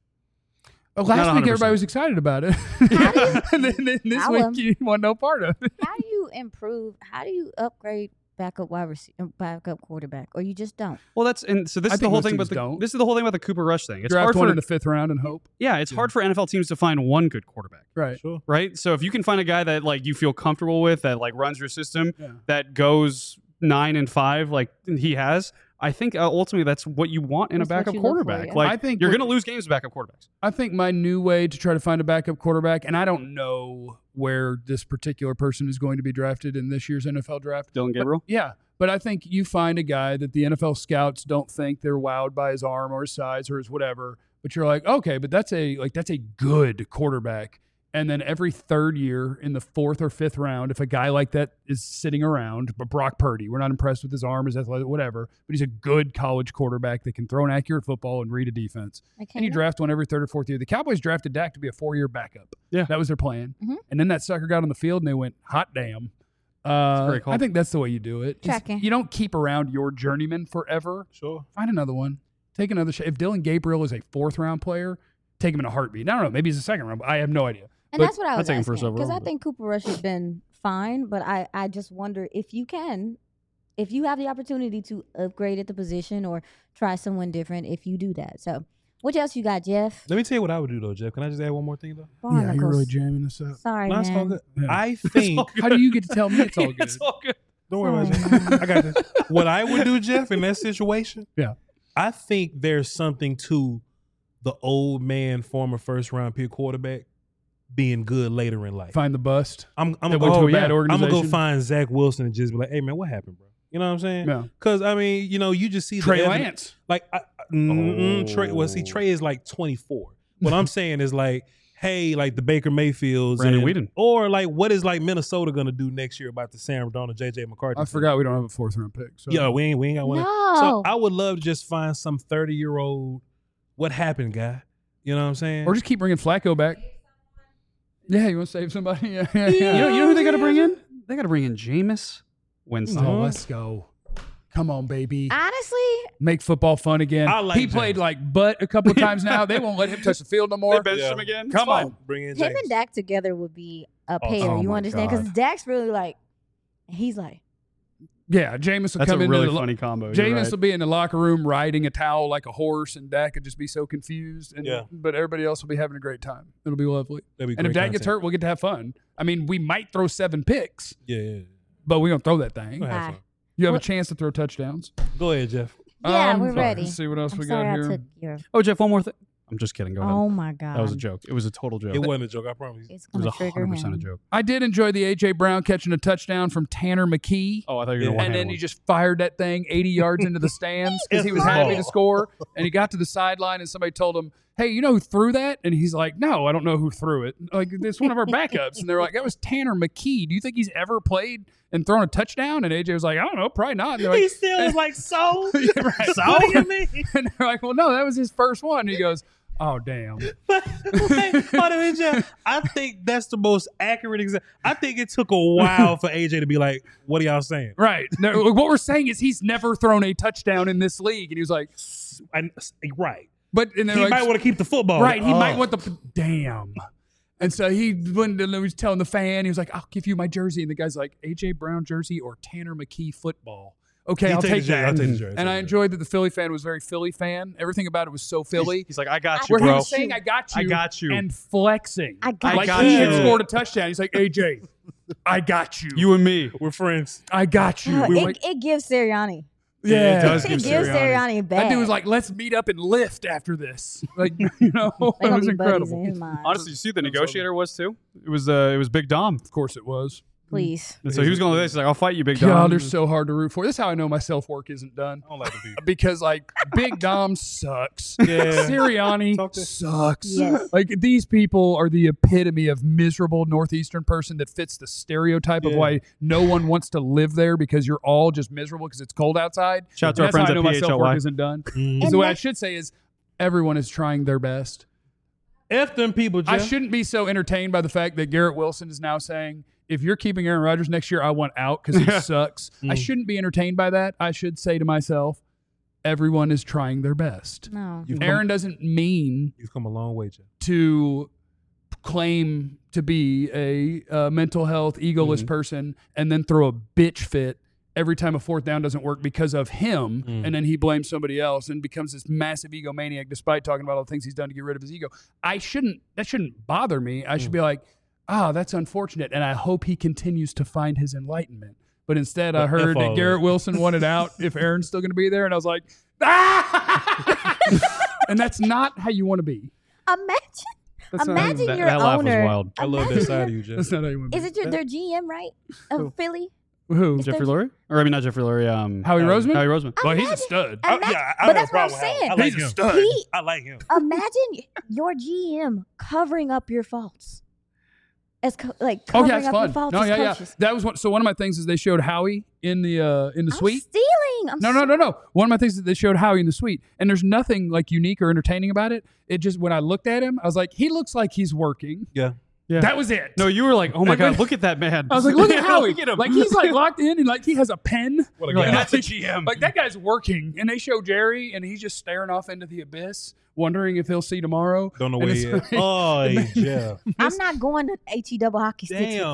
Oh, Not last one week, hundred everybody percent. was excited about it. and then, then this I week, was. you want no part of it. How do you improve? How do you upgrade backup wide receiver, backup quarterback, or you just don't? Well, that's and so this I is the think whole most thing about teams the don't. this is the whole thing about the Cooper Rush thing. It's Draft hard one for in the fifth round and hope. yeah, it's hard for N F L teams to find one good quarterback. Right. Sure. Right? So if you can find a guy that like you feel comfortable with, that like runs your system, Yeah. that goes nine and five, like he has, I think uh, ultimately that's what you want in That's a what backup you look for, quarterback. yeah. Like I think you're what- going to lose games with backup quarterbacks. I think my new way to try to find a backup quarterback, and I don't know where this particular person is going to be drafted in this year's N F L draft. Dylan Gabriel. Yeah, but I think you find a guy that the N F L scouts don't think they're wowed by his arm or his size or his whatever, but you're like, okay, but that's a like that's a good quarterback. And then every third year in the fourth or fifth round, if a guy like that is sitting around, but Brock Purdy, we're not impressed with his arm, his athletic, whatever, but he's a good college quarterback that can throw an accurate football and read a defense. I can't And you draft one every third or fourth year. The Cowboys drafted Dak to be a four-year backup. Yeah. That was their plan. Mhm. And then that sucker got on the field and they went, hot damn. Uh, great call. I think that's the way you do it. Is Tracking. You don't keep around your journeyman forever. Sure. Find another one. Take another shot. If Dylan Gabriel is a fourth-round player, take him in a heartbeat. I don't know. Maybe he's a second round. But I have no idea. And But that's what I I'd was take him asking first overall, because I but- think Cooper Rush has been fine, but I, I just wonder if you can, if you have the opportunity to upgrade at the position or try someone different, if you do that. So, what else you got, Jeff? Let me tell you what I would do though, Jeff. Can I just add one more thing though? Yeah, you're Barnacles. really jamming this up. Sorry, No, it's all man. good. Yeah. I think. How do you get to tell me it's all good? It's all good. Don't worry about Sorry, it. man. I got this. What I would do, Jeff, in that situation, Yeah. I think there's something to the old man, former first round pick quarterback being good later in life. Find the bust. I'm, I'm That gonna went go. to a bad I'm gonna go organization. find Zach Wilson and just be like, "Hey man, what happened, bro?" You know what I'm saying? Yeah. Because I mean, you know, you just see the Trey evidence- Lance. Like, I, I- mm-mm, Trey. Well, see, Trey is like twenty-four. What I'm saying is like, hey, like the Baker Mayfields, Brandon and- Weeden. or like, what is like Minnesota gonna do next year about the Sam Darnold, J J McCarthy? I thing? forgot we don't have a fourth round pick. So. Yeah, we ain't we ain't got one. No. So I would love to just find some thirty year old. What happened, guy? You know what I'm saying? Or just keep bringing Flacco back. Yeah, you want to save somebody? Yeah, yeah, You yeah. know, you know who they got to bring in? They got to bring in Jameis Winston. Oh, let's go. Come on, baby. Honestly, Make football fun again. I like he played James. like butt a couple of times now. They won't let him touch the field no more. They benched Yeah. him again. Come It's fine. on. Bring in him James. and Dak together would be a Oh, pair. oh you my understand? Because God. Dak's really like, he's like, Yeah, Jameis will That's come a into really the lo- funny combo. You're Jameis right. will be in the locker room riding a towel like a horse, and Dak could just be so confused. And, Yeah. But everybody else will be having a great time. It'll be lovely. That'd be And if great Dak gets content. hurt, we'll get to have fun. I mean, we might throw seven picks, yeah, yeah, yeah. but we're going to throw that thing. Go, have Bye. fun. You have What- a chance to throw touchdowns. Go ahead, Jeff. yeah, Um, we're sorry, ready. Let's see what else I'm we sorry got I here. took your. Oh, Jeff, one more thing. I'm just kidding. Go ahead. Oh my god, That was a joke. It was a total joke. It wasn't a joke. I promise. It's It was gonna a trigger hundred percent a him. joke. I did enjoy the A J Brown catching a touchdown from Tanner McKee. Oh, I thought you were Yeah. going to And then one. he just fired that thing eighty yards into the stands because he was It's happy ball. to score. And he got to the sideline and somebody told him, "Hey, you know who threw that?" And he's like, "No, I don't know who threw it. Like, it's one of our backups." And they're like, "That was Tanner McKee. Do you think he's ever played and thrown a touchdown?" And A J was like, "I don't know, probably not." And they're He like, still was like, so? Yeah, right. So what do you mean? And they're like, "Well, no, that was his first one." And he goes, "Oh, damn." Wait, hold on a minute, Jeff. I think that's the most accurate example. I think it took a while for A J to be like, what are y'all saying? Right. No, what we're saying is he's never thrown a touchdown in this league. And he was like, And, right. but and He they're like, might want to keep the football. right, he Oh. might want the damn. And so he when he was telling the fan, he was like, "I'll give you my jersey." And the guy's like, "A J Brown jersey or Tanner McKee football?" Okay, You I'll take take the jersey, that. I'll take the jersey, And I take the enjoyed that the Philly fan was very Philly fan. Everything about it was so Philly. He's like, I got you, Where he bro. was saying, "I got you," I got you. and flexing. I got like got he had you. scored a touchdown. He's like, "A J, I got you. You and me. We're friends. I got you." Oh, We were it, like, it gives Sirianni. yeah, it does It give gives Sirianni. Sirianni back. That dude was like, "Let's meet up and lift after this." Like, you know, They it gonna was be buddies incredible. in his mind. Honestly, you see who the negotiator was too? It was uh, it was Big Dom. Of course, it was. Please. And so he was going to this. He's like, I'll fight you, Big Dom. God, they're so hard to root for. This is how I know my self work isn't done. I don't like the people. Because like Big Dom sucks. Yeah. Sirianni Talk to- sucks. Yes. Like these people are the epitome of miserable northeastern person that fits the stereotype of Yeah. why no one wants to live there because you're all just miserable because it's cold outside. Shout out to And our that's how friends I at know my self P H L Y. work isn't done. Mhm. Is the way I that- should say is everyone is trying their best. F them people, Jeff. I shouldn't be so entertained by the fact that Garrett Wilson is now saying, if you're keeping Aaron Rodgers next year, I want out because he sucks. I Mm. shouldn't be entertained by that. I should say to myself, everyone is trying their best. No. You've Aaron come, doesn't mean you've come a long way, Jeff. to claim to be a uh, mental health, egoless Mhm. person and then throw a bitch fit every time a fourth down doesn't work because of him, Mm. and then he blames somebody else and becomes this massive egomaniac despite talking about all the things he's done to get rid of his ego. I shouldn't, that shouldn't bother me. I should Mm. be like, ah, that's unfortunate, and I hope he continues to find his enlightenment. But instead, I But heard F all that of Garrett it. Wilson wanted out if Aaron's still going to be there, and I was like, ah! And that's not how you want to be. Imagine. That's not how you- Imagine that, your that laugh owner. was wild. I love that Imagine side of your- you, Jeff. That's not how you want to Is be. it your, their G M, right? Of Philly? Who? Is Jeffrey there- Lurie? Or I mean, not Jeffrey Lurie. Um, Howie Um, Roseman? Howie Roseman. Well, he's a Imagine- stud. I- Imagine- yeah, I but have that's a what I'm problem with Howie. saying. I like He's a him. stud. He I like him. imagine your G M covering up your faults. As co- like Oh covering yeah, it's up your fun. faults No, as yeah, yeah. coaches. That was one. So one of my things is they showed Howie in the uh, in the I'm suite. stealing. I'm No, no, no, no. One of my things is they showed Howie in the suite, and there's nothing like unique or entertaining about it. It just when I looked at him, I was like, he looks like he's working. Yeah. Yeah. That was it. No, you were like, oh my Like, God, when- look at that man. I was like, look at Howie. Look at him. Like he's like locked in, and like he has a pen. What a You're like, guy. that's a G M. Like that guy's working, and they show Jerry, and he's just staring off into the abyss, wondering if he'll see tomorrow. Don't know And where it's he is. like- Oh, hey, Jeff. I'm not going to H E double hockey sticks Damn. with you.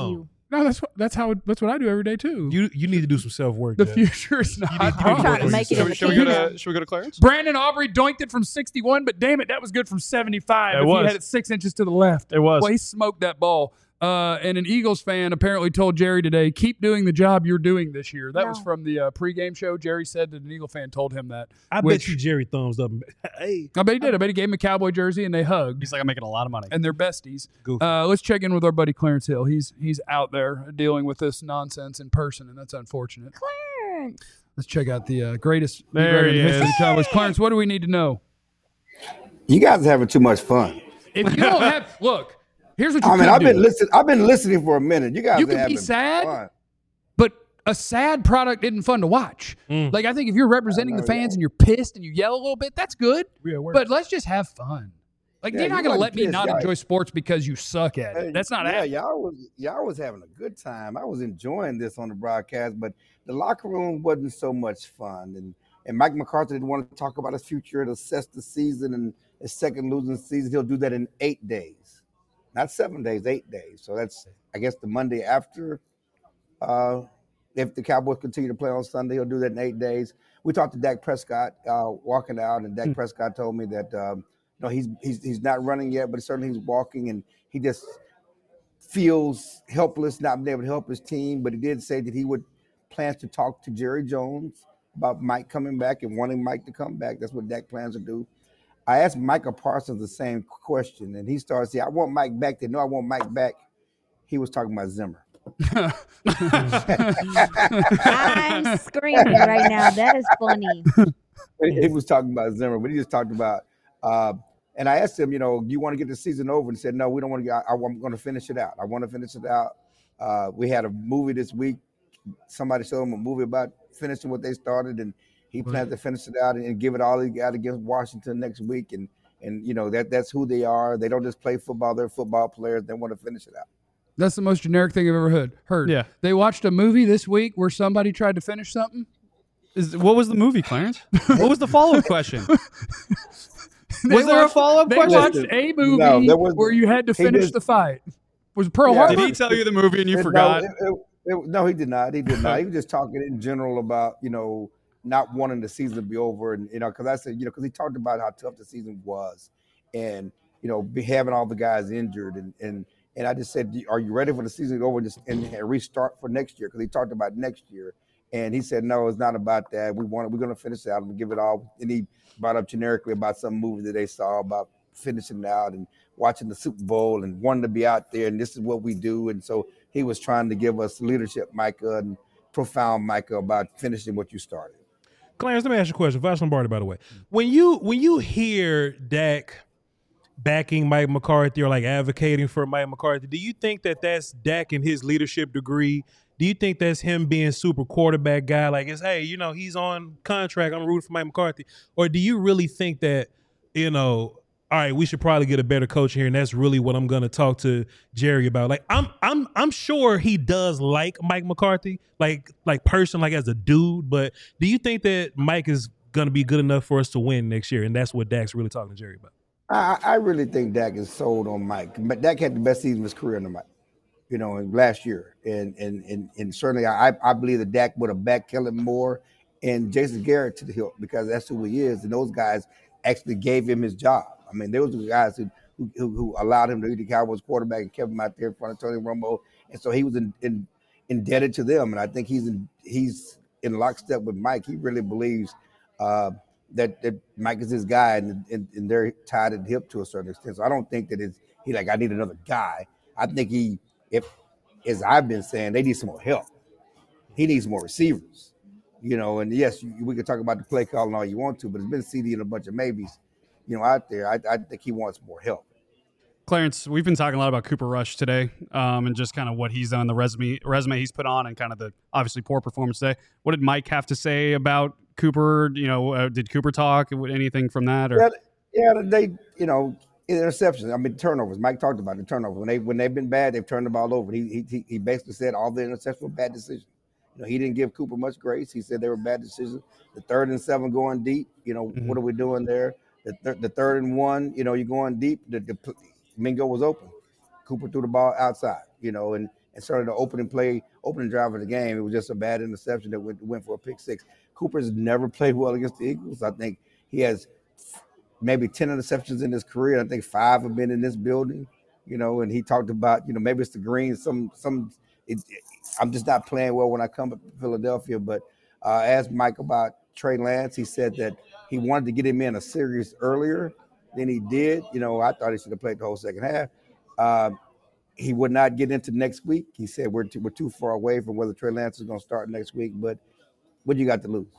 No, that's what, that's how it, that's what I do every day too. You you need to do some self work. the future is not. need to do hard. trying to make it Should, in we- the should we go kingdom. to Should we go to Clarence? Brandon Aubrey doinked it from sixty-one, but damn it, that was good from seventy-five. It if was. he had it six inches to the left. It was. Well, he smoked that ball. Uh, and an Eagles fan apparently told Jerry today, keep doing the job you're doing this year. That No. was from the uh, pregame show. Jerry said that an Eagle fan told him that. I which- bet you Jerry thumbs up. Hey, I bet he did. I bet he gave him a Cowboy jersey and they hugged. He's like, I'm making a lot of money. And they're besties. Goofy. Uh, let's check in with our buddy Clarence Hill. He's he's out there dealing with this nonsense in person, and that's unfortunate. Clarence. Let's check out the uh, greatest There in he the history of is. the Cowboys. Clarence, what do we need to know? You guys are having too much fun. If you don't have, look, here's what you I mean, could I've do. been listening. I've been listening for a minute. You guys You are can be having sad, fun. but a sad product isn't fun to watch. Mm. Like, I think if you're representing the know, fans yeah. and you're pissed and you yell a little bit, that's good. we at work. But let's just have fun. Like, Yeah, you're not you going to wasn't let me pissed, not y'all. enjoy sports because you suck at it. Hey, That's not yeah, happening. y'all was y'all was having a good time. I was enjoying this on the broadcast, but the locker room wasn't so much fun. And and Mike McCarthy didn't want to talk about his future and assess the season and his second losing season. He'll do that in eight days, not seven days, eight days. So that's I guess the Monday after. Uh, if the Cowboys continue to play on Sunday, he'll do that in eight days. We talked to Dak Prescott uh, walking out, and Dak Hmm. Prescott told me that um, no, he's he's he's not running yet, but certainly he's walking, and he just feels helpless, not being able to help his team. But he did say that he would plans to talk to Jerry Jones about Mike coming back and wanting Mike to come back. That's what Dak plans to do. I asked Micah Parsons the same question, and he started saying, "I want Mike back." They know I want Mike back. He was talking about Zimmer. I'm screaming right now. That is funny. He was talking about Zimmer, but he just talked about. Uh, and I asked him, you know, do you want to get the season over? And he said, no, we don't want to get. I, I'm going to finish it out. I want to finish it out. Uh, we had a movie this week. Somebody showed him a movie about finishing what they started, and he plans to finish it out and, and give it all he got against Washington next week. And and you know that that's who they are. They don't just play football; they're football players. They want to finish it out. That's the most generic thing I've ever heard. heard. Yeah. They watched a movie this week where somebody tried to finish something. Is, what was the movie, Clarence? What was the follow-up question? They Was there a watched- follow-up They question? watched a movie No, there was- where you had to he finish did- the fight. Was it Pearl Yeah. Harbor? Did he tell you the movie and you No, forgot? it- it- it- no, he did not. He did not. He was just talking in general about, you know, not wanting the season to be over. And, you know, because I said, you know, because he talked about how tough the season was and, you know, be having all the guys injured. And, and, and I just said, are you ready for the season to go over and, just, and restart for next year? Because he talked about next year. And he said, no, it's not about that. We want it. We're going to finish it out and give it all. And he brought up generically about some movie that they saw about finishing it out and watching the Super Bowl and wanting to be out there. And this is what we do. And so he was trying to give us leadership, Micah, and profound Micah about finishing what you started. Clarence, let me ask you a question. Vash Lombardi, by the way. When you when you hear Dak backing Mike McCarthy or like advocating for Mike McCarthy, do you think that that's Dak and his leadership degree? Do you think that's him being super quarterback guy? Like, it's, hey, you know, he's on contract. I'm rooting for Mike McCarthy. Or do you really think that, you know, all right, we should probably get a better coach here, and that's really what I'm going to talk to Jerry about. Like, I'm, I'm, I'm sure he does like Mike McCarthy, like, like person, like as a dude. But do you think that Mike is going to be good enough for us to win next year, and that's what Dak's really talking to Jerry about? I, I really think Dak is sold on Mike. But Dak had the best season of his career under Mike, you know, in last year. And and and, and certainly I, I believe that Dak would have backed Kellen Moore and Jason Garrett to the hill because that's who he is. And those guys actually gave him his job. I mean, those were the guys who who, who allowed him to be the Cowboys quarterback and kept him out there in front of Tony Romo. And so he was in, in, indebted to them. And I think he's in, he's in lockstep with Mike. He really believes uh, that, that Mike is his guy, and, and, and they're tied at the hip to a certain extent. So I don't think that it's he like, I need another guy. I think he, if as I've been saying, they need some more help. He needs more receivers, you know. And yes, you, we can talk about the play calling all you want to, but it's been C D and a bunch of maybes, you know, out there. I, I think he wants more help. Clarence, we've been talking a lot about Cooper Rush today, um, and just kind of what he's done, the resume resume he's put on, and kind of the obviously poor performance today. What did Mike have to say about Cooper? You know, uh, did Cooper talk? Anything from that? Or Yeah, yeah, they, you know, interceptions. I mean, turnovers. Mike talked about the turnovers. When they when they've been bad, they've turned the ball over. He he he basically said all the interceptions were bad decisions. You know, he didn't give Cooper much grace. He said they were bad decisions. The third and seven going deep. You know, Mhm. what are we doing there? The, th- the third and one. You know, you're going deep. The, the Mingo was open. Cooper threw the ball outside. You know, and and certainly the opening play, opening drive of the game, it was just a bad interception that went, went for a pick six. Cooper's never played well against the Eagles. I think he has maybe ten interceptions in his career. I think five have been in this building, you know, and he talked about, you know, maybe it's the green. Some, some, it, it, I'm just not playing well when I come to Philadelphia. But uh, I asked Mike about Trey Lance. He said that he wanted to get him in a series earlier than he did. You know, I thought he should have played the whole second half. Uh, he would not get into next week. He said we're too, we're too far away from whether Trey Lance is going to start next week. But what do you got to lose?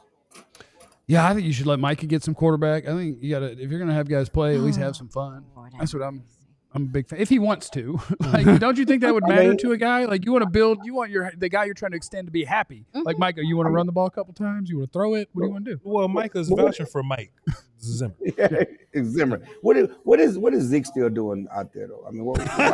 Yeah, I think you should let Micah get some quarterback. I think you got to, if you're going to have guys play, at least have some fun. That's what I'm. I'm a big fan. If he wants to, like, don't you think that would matter to a guy? Like, you want to build, you want your the guy you're trying to extend to be happy. Mm-hmm. Like, Micah, you want to run the ball a couple times? You want to throw it? What do you want to do? Well, Micah's vouching for Mike Zimmer. Yeah, Zimmer. What is what is what is Zeke still doing out there though? I mean, what, why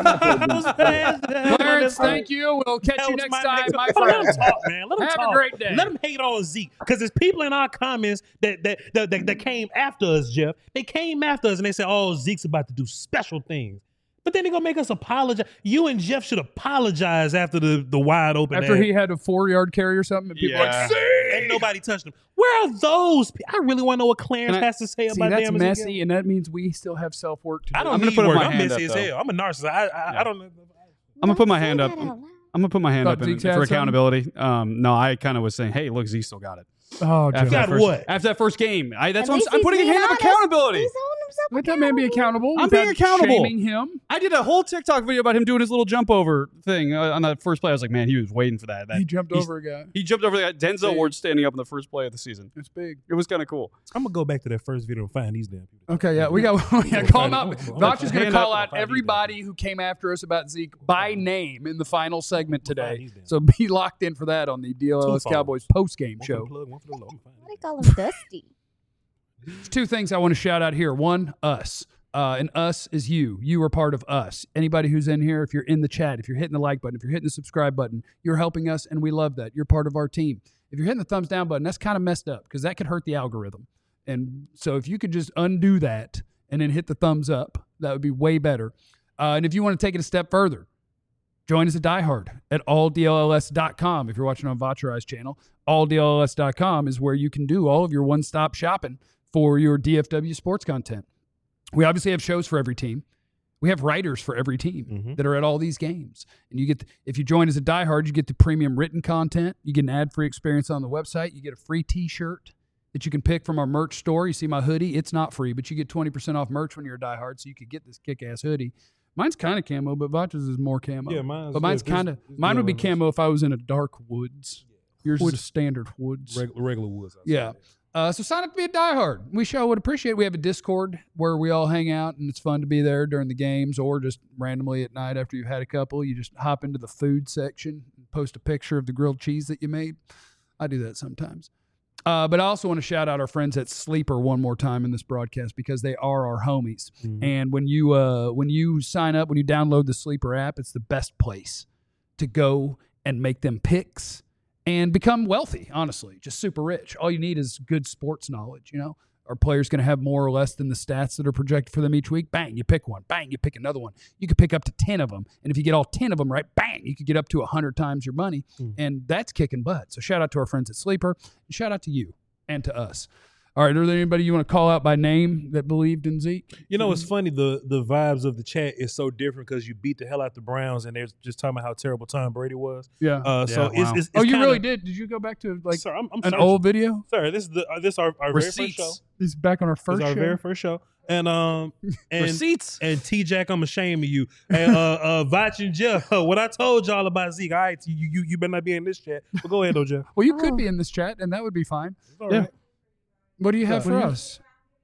not Clarence, thank you. We'll catch that you next my time, my Let friend. him talk, man. Let him Have talk. a great day. Let him hate on Zeke because there's people in our comments that that, that that that came after us, Jeff. They came after us and they said, "Oh, Zeke's about to do special things." But then they're going to make us apologize. You and Jeff should apologize after the, the wide open. After ad. he had a four-yard carry or something, and people Yeah. like, see? And nobody touched him. Where are those? pe- I really want to know what Clarence Can I- has to say See, about that's damn messy, Ezekiel. and that means we still have self-work to do. I don't I'm gonna need put up work. my I'm hand messy up, as though. hell. I'm a narcissist. I, I, Yeah. I don't know. I'm gonna put my Say hand that up. out and- loud. I'm gonna put my hand Thought up in, Zeke's for had something? accountability. Um, no, I kind of was saying, hey, look, Z still got it. Oh, After Jeff. that Got first, what? After that first game, I, that's At what I'm, least s- I'm he's putting a being hand of honest. accountability. He's holding himself Let that man be accountable. I'm being without accountable. Shaming him. I did a whole TikTok video about him doing his little jump over thing uh, on that first play. I was like, man, he was waiting for that. that He jumped he's- over a guy. He jumped over the guy. Denzel Big. Ward standing up in the first play of the season. It's big. It was kind of cool. I'm going to go back to that first video and find these damn people. Okay, yeah, we got yeah, call him out. Hand Vouch is going to call up. out everybody who came after us about Zeke by name in the final segment today. these damn- So be locked in for that on the D L L S Two Cowboys phones. post-game One for the show. plug, one for the low. I'm gonna Why they call him Dusty? There's two things I want to shout out here. One, us. Uh, and us is you. You are part of us. Anybody who's in here, if you're in the chat, if you're hitting the like button, if you're hitting the subscribe button, you're helping us, and we love that. You're part of our team. If you're hitting the thumbs down button, that's kind of messed up because that could hurt the algorithm. And so if you could just undo that and then hit the thumbs up, that would be way better. Uh, and if you want to take it a step further, join us at diehard at all D L L S dot com. If you're watching on Vaucheri's channel, all D L L S dot com is where you can do all of your one-stop shopping for your D F W sports content. We obviously have shows for every team. We have writers for every team Mhm. that are at all these games. And you get, if you join as a diehard, you get the premium written content. You get an ad-free experience on the website. You get a free T-shirt that you can pick from our merch store. You see my hoodie. It's not free, but you get twenty percent off merch when you're a diehard, so you could get this kick-ass hoodie. Mine's kind of camo, but Vach's is more camo. Yeah, mine's But mine's good. This- kind of, this mine would be deal is- camo if I was in a dark woods. Yours Wood- is a standard woods. Regular, regular woods. outside. Yeah. Uh, so sign up to be a diehard. We sure would appreciate it. We have a Discord where we all hang out, and it's fun to be there during the games or just randomly at night after you've had a couple. You just hop into the food section and post a picture of the grilled cheese that you made. I do that sometimes. Uh, but I also want to shout out our friends at Sleeper one more time in this broadcast because they are our homies. Mhm. And when you uh, when you sign up, when you download the Sleeper app, it's the best place to go and make them picks and become wealthy, honestly, just super rich. All you need is good sports knowledge, you know? Are players going to have more or less than the stats that are projected for them each week? Bang, you pick one. Bang, you pick another one. You could pick up to ten of them. And if you get all ten of them right, bang, you could get up to one hundred times your money. Mm. And that's kicking butt. So shout out to our friends at Sleeper. And shout out to you and to us. All right, are there anybody you want to call out by name that believed in Zeke? You know, it's funny. The the vibes of the chat is so different because you beat the hell out the Browns, and they're just talking about how terrible Tom Brady was. Yeah. Uh, so Yeah, it's, wow. it's, it's oh, you kinda, really did? Did you go back to like Sir, I'm, I'm an searching. old video? Sir, this is the uh, this our, our very first Receipts. show. This is back on our This first is our show. very first show, and um and Receipts. and T Jack, I'm ashamed of you. And uh, uh, Vach and Jeff, what I told y'all about Zeke, all right, you you you better not be in this chat. But go ahead, though, Jeff. Well, you could Oh. be in this chat, and that would be fine. It's all Yeah. right. What do you have What for do you- us?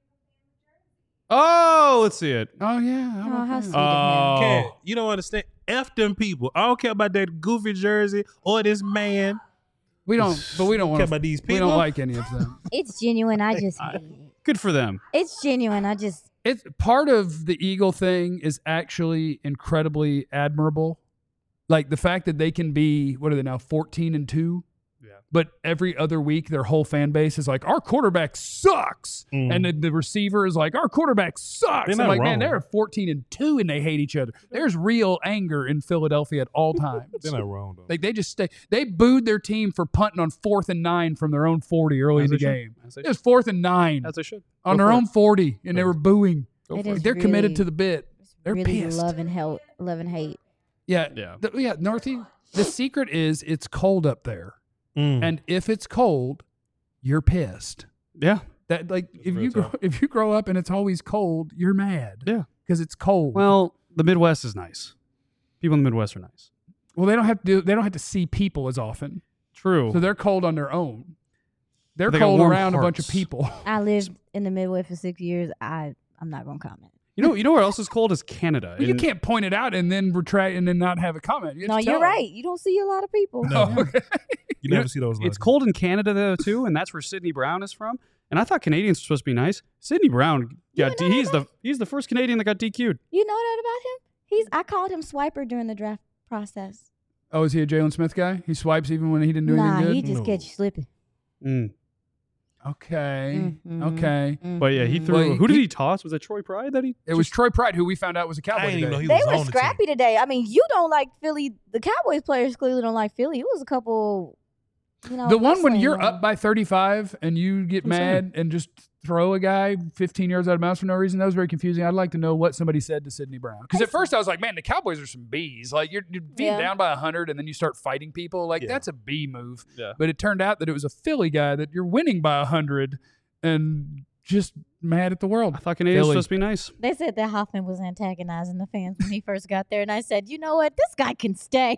Oh, let's see it. Oh, yeah. Oh, about how that? sweet. Oh, Cat, you don't understand. F them people. I don't care about that goofy jersey or this man. We don't, but we don't I want care to. about these We people. don't like any of them. It's genuine. I just hate it. good for them. It's genuine. I just It's part of the Eagle thing is actually incredibly admirable. Like the fact that they can be, what are they now, fourteen and two? Yeah. but every other week their whole fan base is like, our quarterback sucks. Mm. And the, the receiver is like, our quarterback sucks. They're I'm not like, wrong. man, they're fourteen and two and they hate each other. There's real anger in Philadelphia at all times. They're not wrong though. Like they just stay. They booed their team for punting on fourth and nine from their own forty early As in the they should. game. As they It was fourth and nine As they should. on Go their for own it. forty, and they were booing. Go It for is it. They're committed really- to the bit. They're really pissed. love and hate, love and hate. Yeah, Yeah. The, yeah. Northie. The secret is it's cold up there, Mm. and if it's cold, you're pissed. Yeah. That like if real you grow, tough. if you grow up and it's always cold, you're mad. Yeah. because it's cold. Well, the Midwest is nice. People in the Midwest are nice. well, they don't have to. Do, they don't have to see people as often, True. so they're cold on their own. They're They got cold warm around a bunch of hearts. people. I lived in the Midwest for six years. I I'm not gonna comment. you know, you know where else is cold is Canada. Well, you And- can't point it out and then retract and then not have a comment. You have No, to you're tell right. You don't see a lot of people. No. them. Oh, okay. You never see those. It's lines. cold in Canada though too, and that's where Sidney Brown is from. And I thought Canadians were supposed to be nice. Sidney Brown, You yeah, know he's that? the he's the first Canadian that got D Q'd. You know that about him? He's I called him Swiper during the draft process. Oh, is he a Jalen Smith guy? He swipes even when he didn't do Nah, anything he good. just No. catch you slipping. Mm. Okay, Mhm. okay. But yeah, he Mhm. threw. Well, who did he- he toss? Was it Troy Pride that he? It was Troy Pride, who we found out was a Cowboy I didn't even know today. he They was were on the scrappy today. I mean, you don't like Philly. The Cowboys players clearly don't like Philly. It was a couple, you know. The one when wrestling you're going. up by thirty-five and you get I'm mad and just throw a guy fifteen yards out of bounds for no reason, that was very confusing. I'd like to know what somebody said to Sidney Brown. Because at first I was like, man, the Cowboys are some bees. Like, you're, you're being Yeah. down by one hundred and then you start fighting people. Like, Yeah. that's a bee move. Yeah. But it turned out that it was a Philly guy that you're winning by one hundred and just mad at the world. I thought Canadians were Philly. supposed to be nice. They said that Hoffman was antagonizing the fans when he first got there, and I said, you know what, this guy can stay.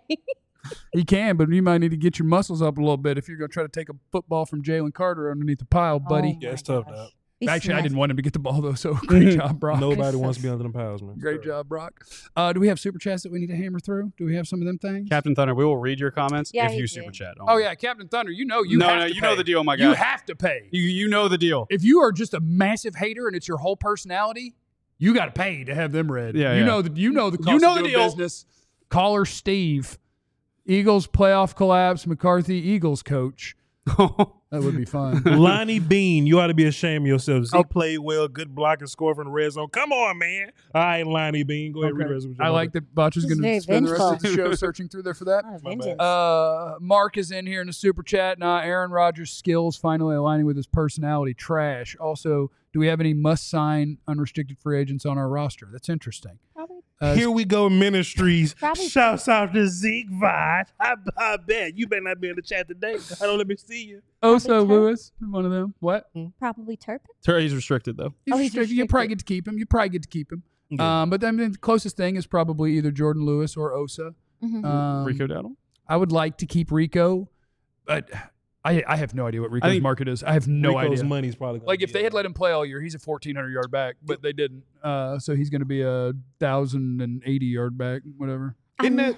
He can, but you might need to get your muscles up a little bit if you're going to try to take a football from Jalen Carter underneath the pile, buddy. Oh Yeah, it's my tough, gosh. dog. He Actually, I smashed didn't want him to get the ball, though, so great job, Brock. Nobody wants to be under them piles, man. Great job, Brock. Uh, do we have super chats that we need to hammer through? Do we have some of them things? Captain Thunder, we will read your comments Yeah, if he you did. super chat. Oh yeah, Captain Thunder. You know you no, have no, to you pay. know the deal, my guy. You have to pay. You you know the deal. If you are just a massive hater and it's your whole personality, you got to pay to have them read. Yeah, you yeah. know the you know the cost You know of the doing deal. business. Caller Steve, Eagles playoff collapse. McCarthy Eagles coach. That would be fun. Lonnie Bean, you ought to be ashamed of yourself. Zeke Oh. played well, good block and score from the red zone. Come on, man. All right, Lonnie Bean, go ahead and read the rest of your I like that Botch is This is going to very spend the rest of the vengeful. show searching through there for that. Lot of My bad. vengeance. Uh, Mark is in here in the super chat. Nah, Aaron Rodgers' skills finally aligning with his personality. Trash. Also, do we have any must-sign unrestricted free agents on our roster? That's interesting. Probably. Uh, Here we go, Ministries. Probably- Shouts out to Zeke Vod. I, I bet you better not be in the chat today. I don't let me see you. Oso Probably Lewis, one of them. What? Probably Turpin. Tur- He's restricted though. He's Oh, he's restricted. You probably restricted. get to keep him. You probably get to keep him. Yeah. Um, but then the closest thing is probably either Jordan Lewis or Osa. Mhm. Um, Rico Dowdle. I would like to keep Rico, but I I have no idea what Rico's think market is. I have no Rico's idea. money's probably gonna Like if be they had up. let him play all year, he's a fourteen hundred yard back, but they didn't. Uh, so he's going to be a thousand and eighty yard back, whatever. Isn't I'm- that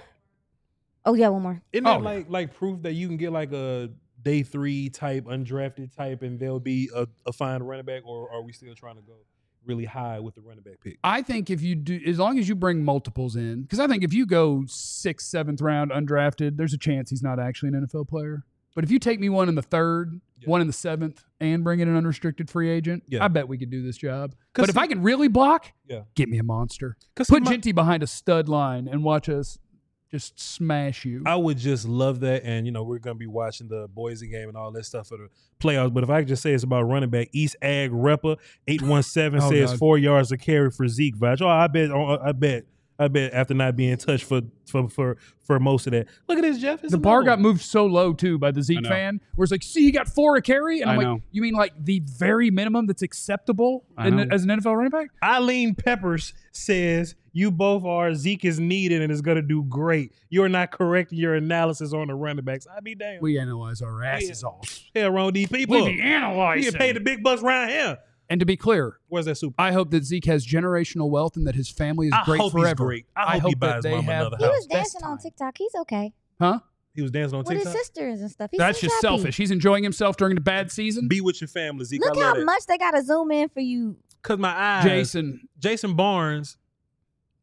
Oh yeah, one more. isn't Oh, that yeah. like like proof that you can get like a day three type undrafted type and there'll be a, a fine running back, or are we still trying to go really high with the running back pick? I think if you do, as long as you bring multiples in, because I think if you go sixth, seventh round undrafted, there's a chance he's not actually an N F L player. But if you take me one in the third, Yeah. one in the seventh, and bring in an unrestricted free agent, Yeah. I bet we could do this job. 'Cause But if see- I can really block, Yeah. get me a monster. Because Put Ginty behind a stud line and watch us just smash you. I would just love that. And, you know, we're going to be watching the Boise game and all that stuff for the playoffs. But if I could just say it's about running back, East Ag Reppa, eight one seven Oh, says God. four yards of carry for Zeke Vach. Oh, I bet, oh, I bet, I bet after not being touched for for for, for most of that. Look at this, Jeff. It's the bar another got one. moved so low, too, by the I Zeke know. fan, where it's like, see, he got four a carry? And I'm I like, know. you mean like the very minimum that's acceptable I in, know. as an N F L running back? Eileen Peppers says, you both are. Zeke is needed and is going to do great. You're not correct in your analysis on the running backs. I be damned. We analyze our asses off. Hell wrong with these people. We be You analyzing. get paid the big bucks around here. And to be clear, Where's that super? I hope that Zeke has generational wealth and that his family is I great hope he's forever. great. I hope he buys that they mama have another He house. was best dancing on time. TikTok. He's okay Huh? He was dancing on with his TikTok. sisters and stuff. He That's seems just happy. selfish. He's enjoying himself during the bad season. Be with your family, Zeke. Look I love how that. much they got to zoom in for you. Cause my eyes. Jason, Jason Barnes.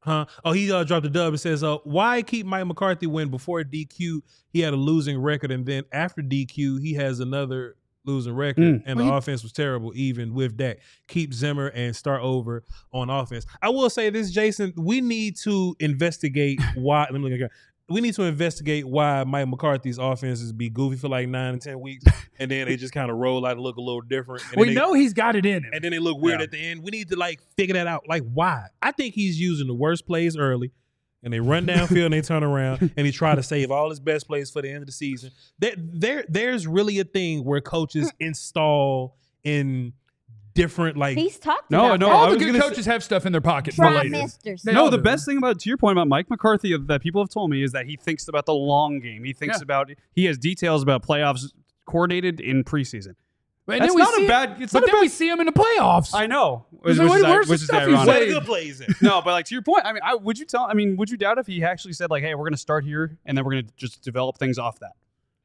Huh? Oh, he uh, dropped a dub. It says, uh, why keep Mike McCarthy when before D Q he had a losing record, and then after D Q he has another losing record, Mm. and Well, the he- offense was terrible even with Dak. Keep Zimmer and start over on offense. I will say this, Jason, we need to investigate why. Let me look again. We need to investigate why Mike McCarthy's offenses be goofy for like nine and ten weeks, and then they just kind of roll out and look a little different. And We then they, know he's got it in him. and then they look weird Yeah. at the end. We need to like figure that out. Like why? I think he's using the worst plays early, and they run downfield and they turn around and he try to save all his best plays for the end of the season. There, there, there's really a thing where coaches install in different like. He's talked No, about no, that. All I the was good gonna coaches have stuff in their pocket for Try later. misters. They No, all the do. best thing about to your point about Mike McCarthy that people have told me is that he thinks about the long game. He thinks Yeah. about he has details about playoffs coordinated in preseason. And That's then we not a see- bad- it's but not a then bad- we see him in the playoffs. I know, So which, what- which is, where's the which is stuff he ironic. Where said? the good plays in. No, but like to your point, I mean, I, would you tell? I mean, would you doubt if he actually said like, "Hey, we're going to start here, and then we're going to just develop things off that"?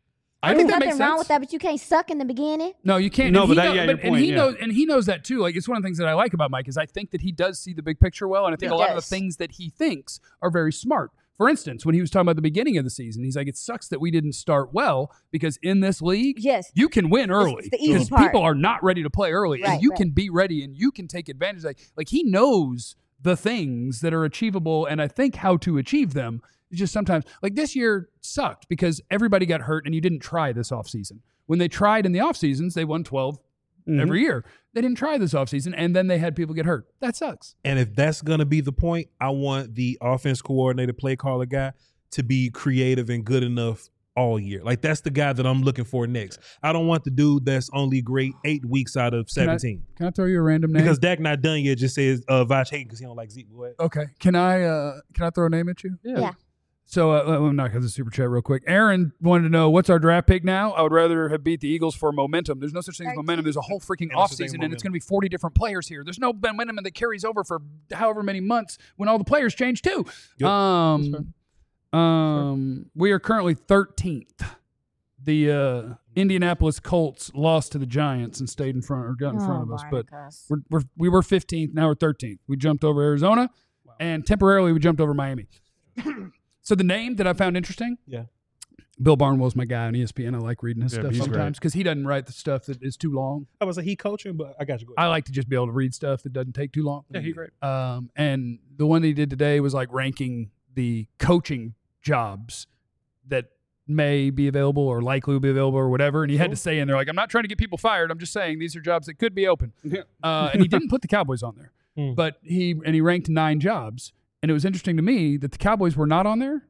I think There's that nothing makes wrong sense. with that, but you can't suck in the beginning. No, you can't. No, and but he that- know- yeah, your but- and point, he yeah. knows, and he knows that too. Like it's one of the things that I like about Mike is I think that he does see the big picture well, and I think He a lot of the does. things that he thinks are very smart. For instance, when he was talking about the beginning of the season, he's like, "It sucks that we didn't start well because in this league, Yes. you can win early it's the easy because part. people are not ready to play early, and Right, you right. can be ready and you can take advantage." Like, like he knows the things that are achievable, and I think how to achieve them. It's just sometimes like this year sucked because everybody got hurt, and you didn't try this offseason. When they tried in the off seasons, they won twelve Mhm. every year. They didn't try this offseason, and then they had people get hurt. That sucks. And if that's gonna be the point, I want the offense coordinator, play caller guy to be creative and good enough all year. Like that's the guy that I'm looking for next. I don't want the dude that's only great eight weeks out of Can I- seventeen. Can I throw you a random name? Because Dak not done yet. Just says uh, Vash Hayden because he don't like Zeke. Go ahead. okay, can I uh, can I throw a name at you? Yeah. So uh, I'm not because of super chat real quick. Aaron wanted to know what's our draft pick now. I would rather have beat the Eagles for momentum. There's no such thing as momentum. There's a whole freaking Yeah, there's such thing as offseason, and it's momentum. going to be forty different players here. There's no momentum that carries over for however many months when all the players change too. Yep. Um, um, we are currently thirteenth. The uh, Indianapolis Colts lost to the Giants and stayed in front or got in front of us, but we're, we're we were fifteenth. Now we're thirteenth. We jumped over Arizona, and temporarily we jumped over Miami. So the name that I found interesting, Yeah. Bill Barnwell's my guy on E S P N. I like reading his Yeah, stuff he's sometimes because he doesn't write the stuff that is too long. I was like he coaching, but I got you. Go ahead. I like to just be able to read stuff that doesn't take too long. Yeah, he's great. Um, and the one that he did today was like ranking the coaching jobs that may be available or likely will be available or whatever. And he had to say in there, like, I'm not trying to get people fired. I'm just saying these are jobs that could be open. Yeah. Uh, and he didn't put the Cowboys on there, Hmm. but he and he ranked nine jobs. And it was interesting to me that the Cowboys were not on there.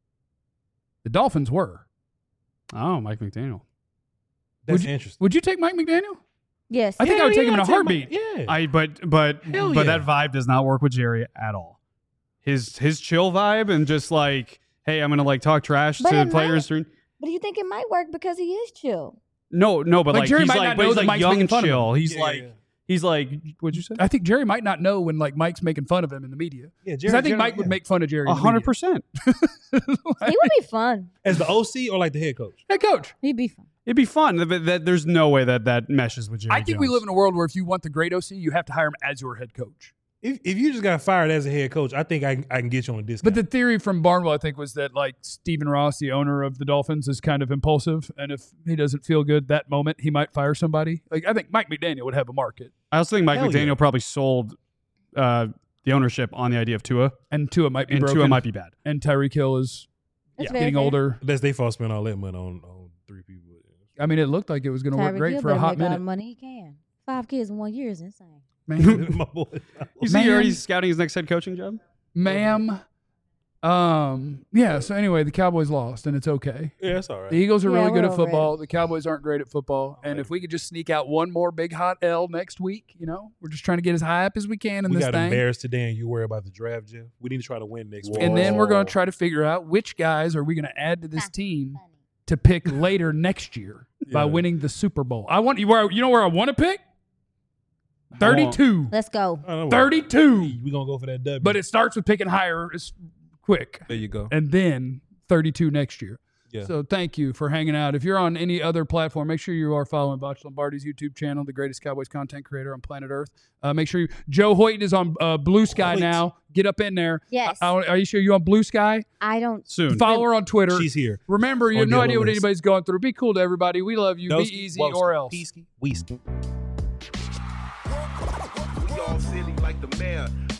The Dolphins were. Oh, Mike McDaniel. That's would you- interesting. Would you take Mike McDaniel? Yes. I think I Hell would take him yeah, in a I'd take heartbeat. my- yeah. I but but Hell but yeah. that vibe does not work with Jerry at all. His his chill vibe and just like, hey, I'm gonna like talk trash But to it players during. But you think it might work because he is chill? No, no, but Like, like, Jerry he's might like, not but know he's that like Mike's young making and fun of him. chill. He's Yeah, like, yeah. he's like, what'd you say? I think Jerry might not know when like Mike's making fun of him in the media. Yeah, Because Jerry, I think Jerry- Mike would yeah. make fun of Jerry. in A the hundred media. percent. He would be fun. as the O C or like the head coach. Hey, coach. He'd be fun. It'd be fun, but that, there's no way that that meshes with Jerry. I think we Jones. live in a world where if you want the great O C, you have to hire him as your head coach. If if you just got fired as a head coach, I think I can, I can get you on a discount. But the theory from Barnwell, I think, was that like Stephen Ross, the owner of the Dolphins, is kind of impulsive, and if he doesn't feel good that moment, he might fire somebody. Like I think Mike McDaniel would have a market, I also think Mike Hell McDaniel yeah. probably sold uh, the ownership on the idea of Tua, and Tua might be and broken, Tua might be bad. and Tyreek Hill is That's Yeah. very getting fair. older. That's they fault spend all that money on, on three people. I mean, it looked like it was going to work Tyreek great Hill for a better hot make all the minute. money he can. Five kids in one year is insane. Man, My boy. You see, Man. you're already scouting his next head coaching job. ma'am. Um, yeah. So anyway, the Cowboys lost, and it's okay. Yeah, that's all right. The Eagles are Yeah, really good we're at over it. football. The Cowboys aren't great at football. And if we could just sneak out one more big hot L next week, you know, we're just trying to get as high up as we can in we this got thing. embarrassed today, and you worry about the draft, Jeff. We need to try to win next week. And then we're going to Whoa. try to figure out which guys are we going to add to this team to pick later next year by Yeah. winning the Super Bowl. I want you where you know where I want to pick? thirty-two. Let's go. I don't know. thirty-two. We're gonna go for that W. But it starts with picking higher as quick. there you go. And then thirty-two next year. Yeah. So thank you for hanging out. If you're on any other platform, make sure you are following Butch Lombardi's YouTube channel, the greatest Cowboys content creator on planet Earth. Uh, make sure you, Joe Hoyt is on uh, Blue Sky Hoyt. now. Get up in there. Yes. I, I, are you sure you're on Blue Sky? I don't. Soon. Follow her on Twitter. She's here. Remember, you On have no the idea what list. anybody's going through. Be cool to everybody. We love you. Doski, Be easy Woski, or else. Peasky, Weasky. We all silly like the mayor.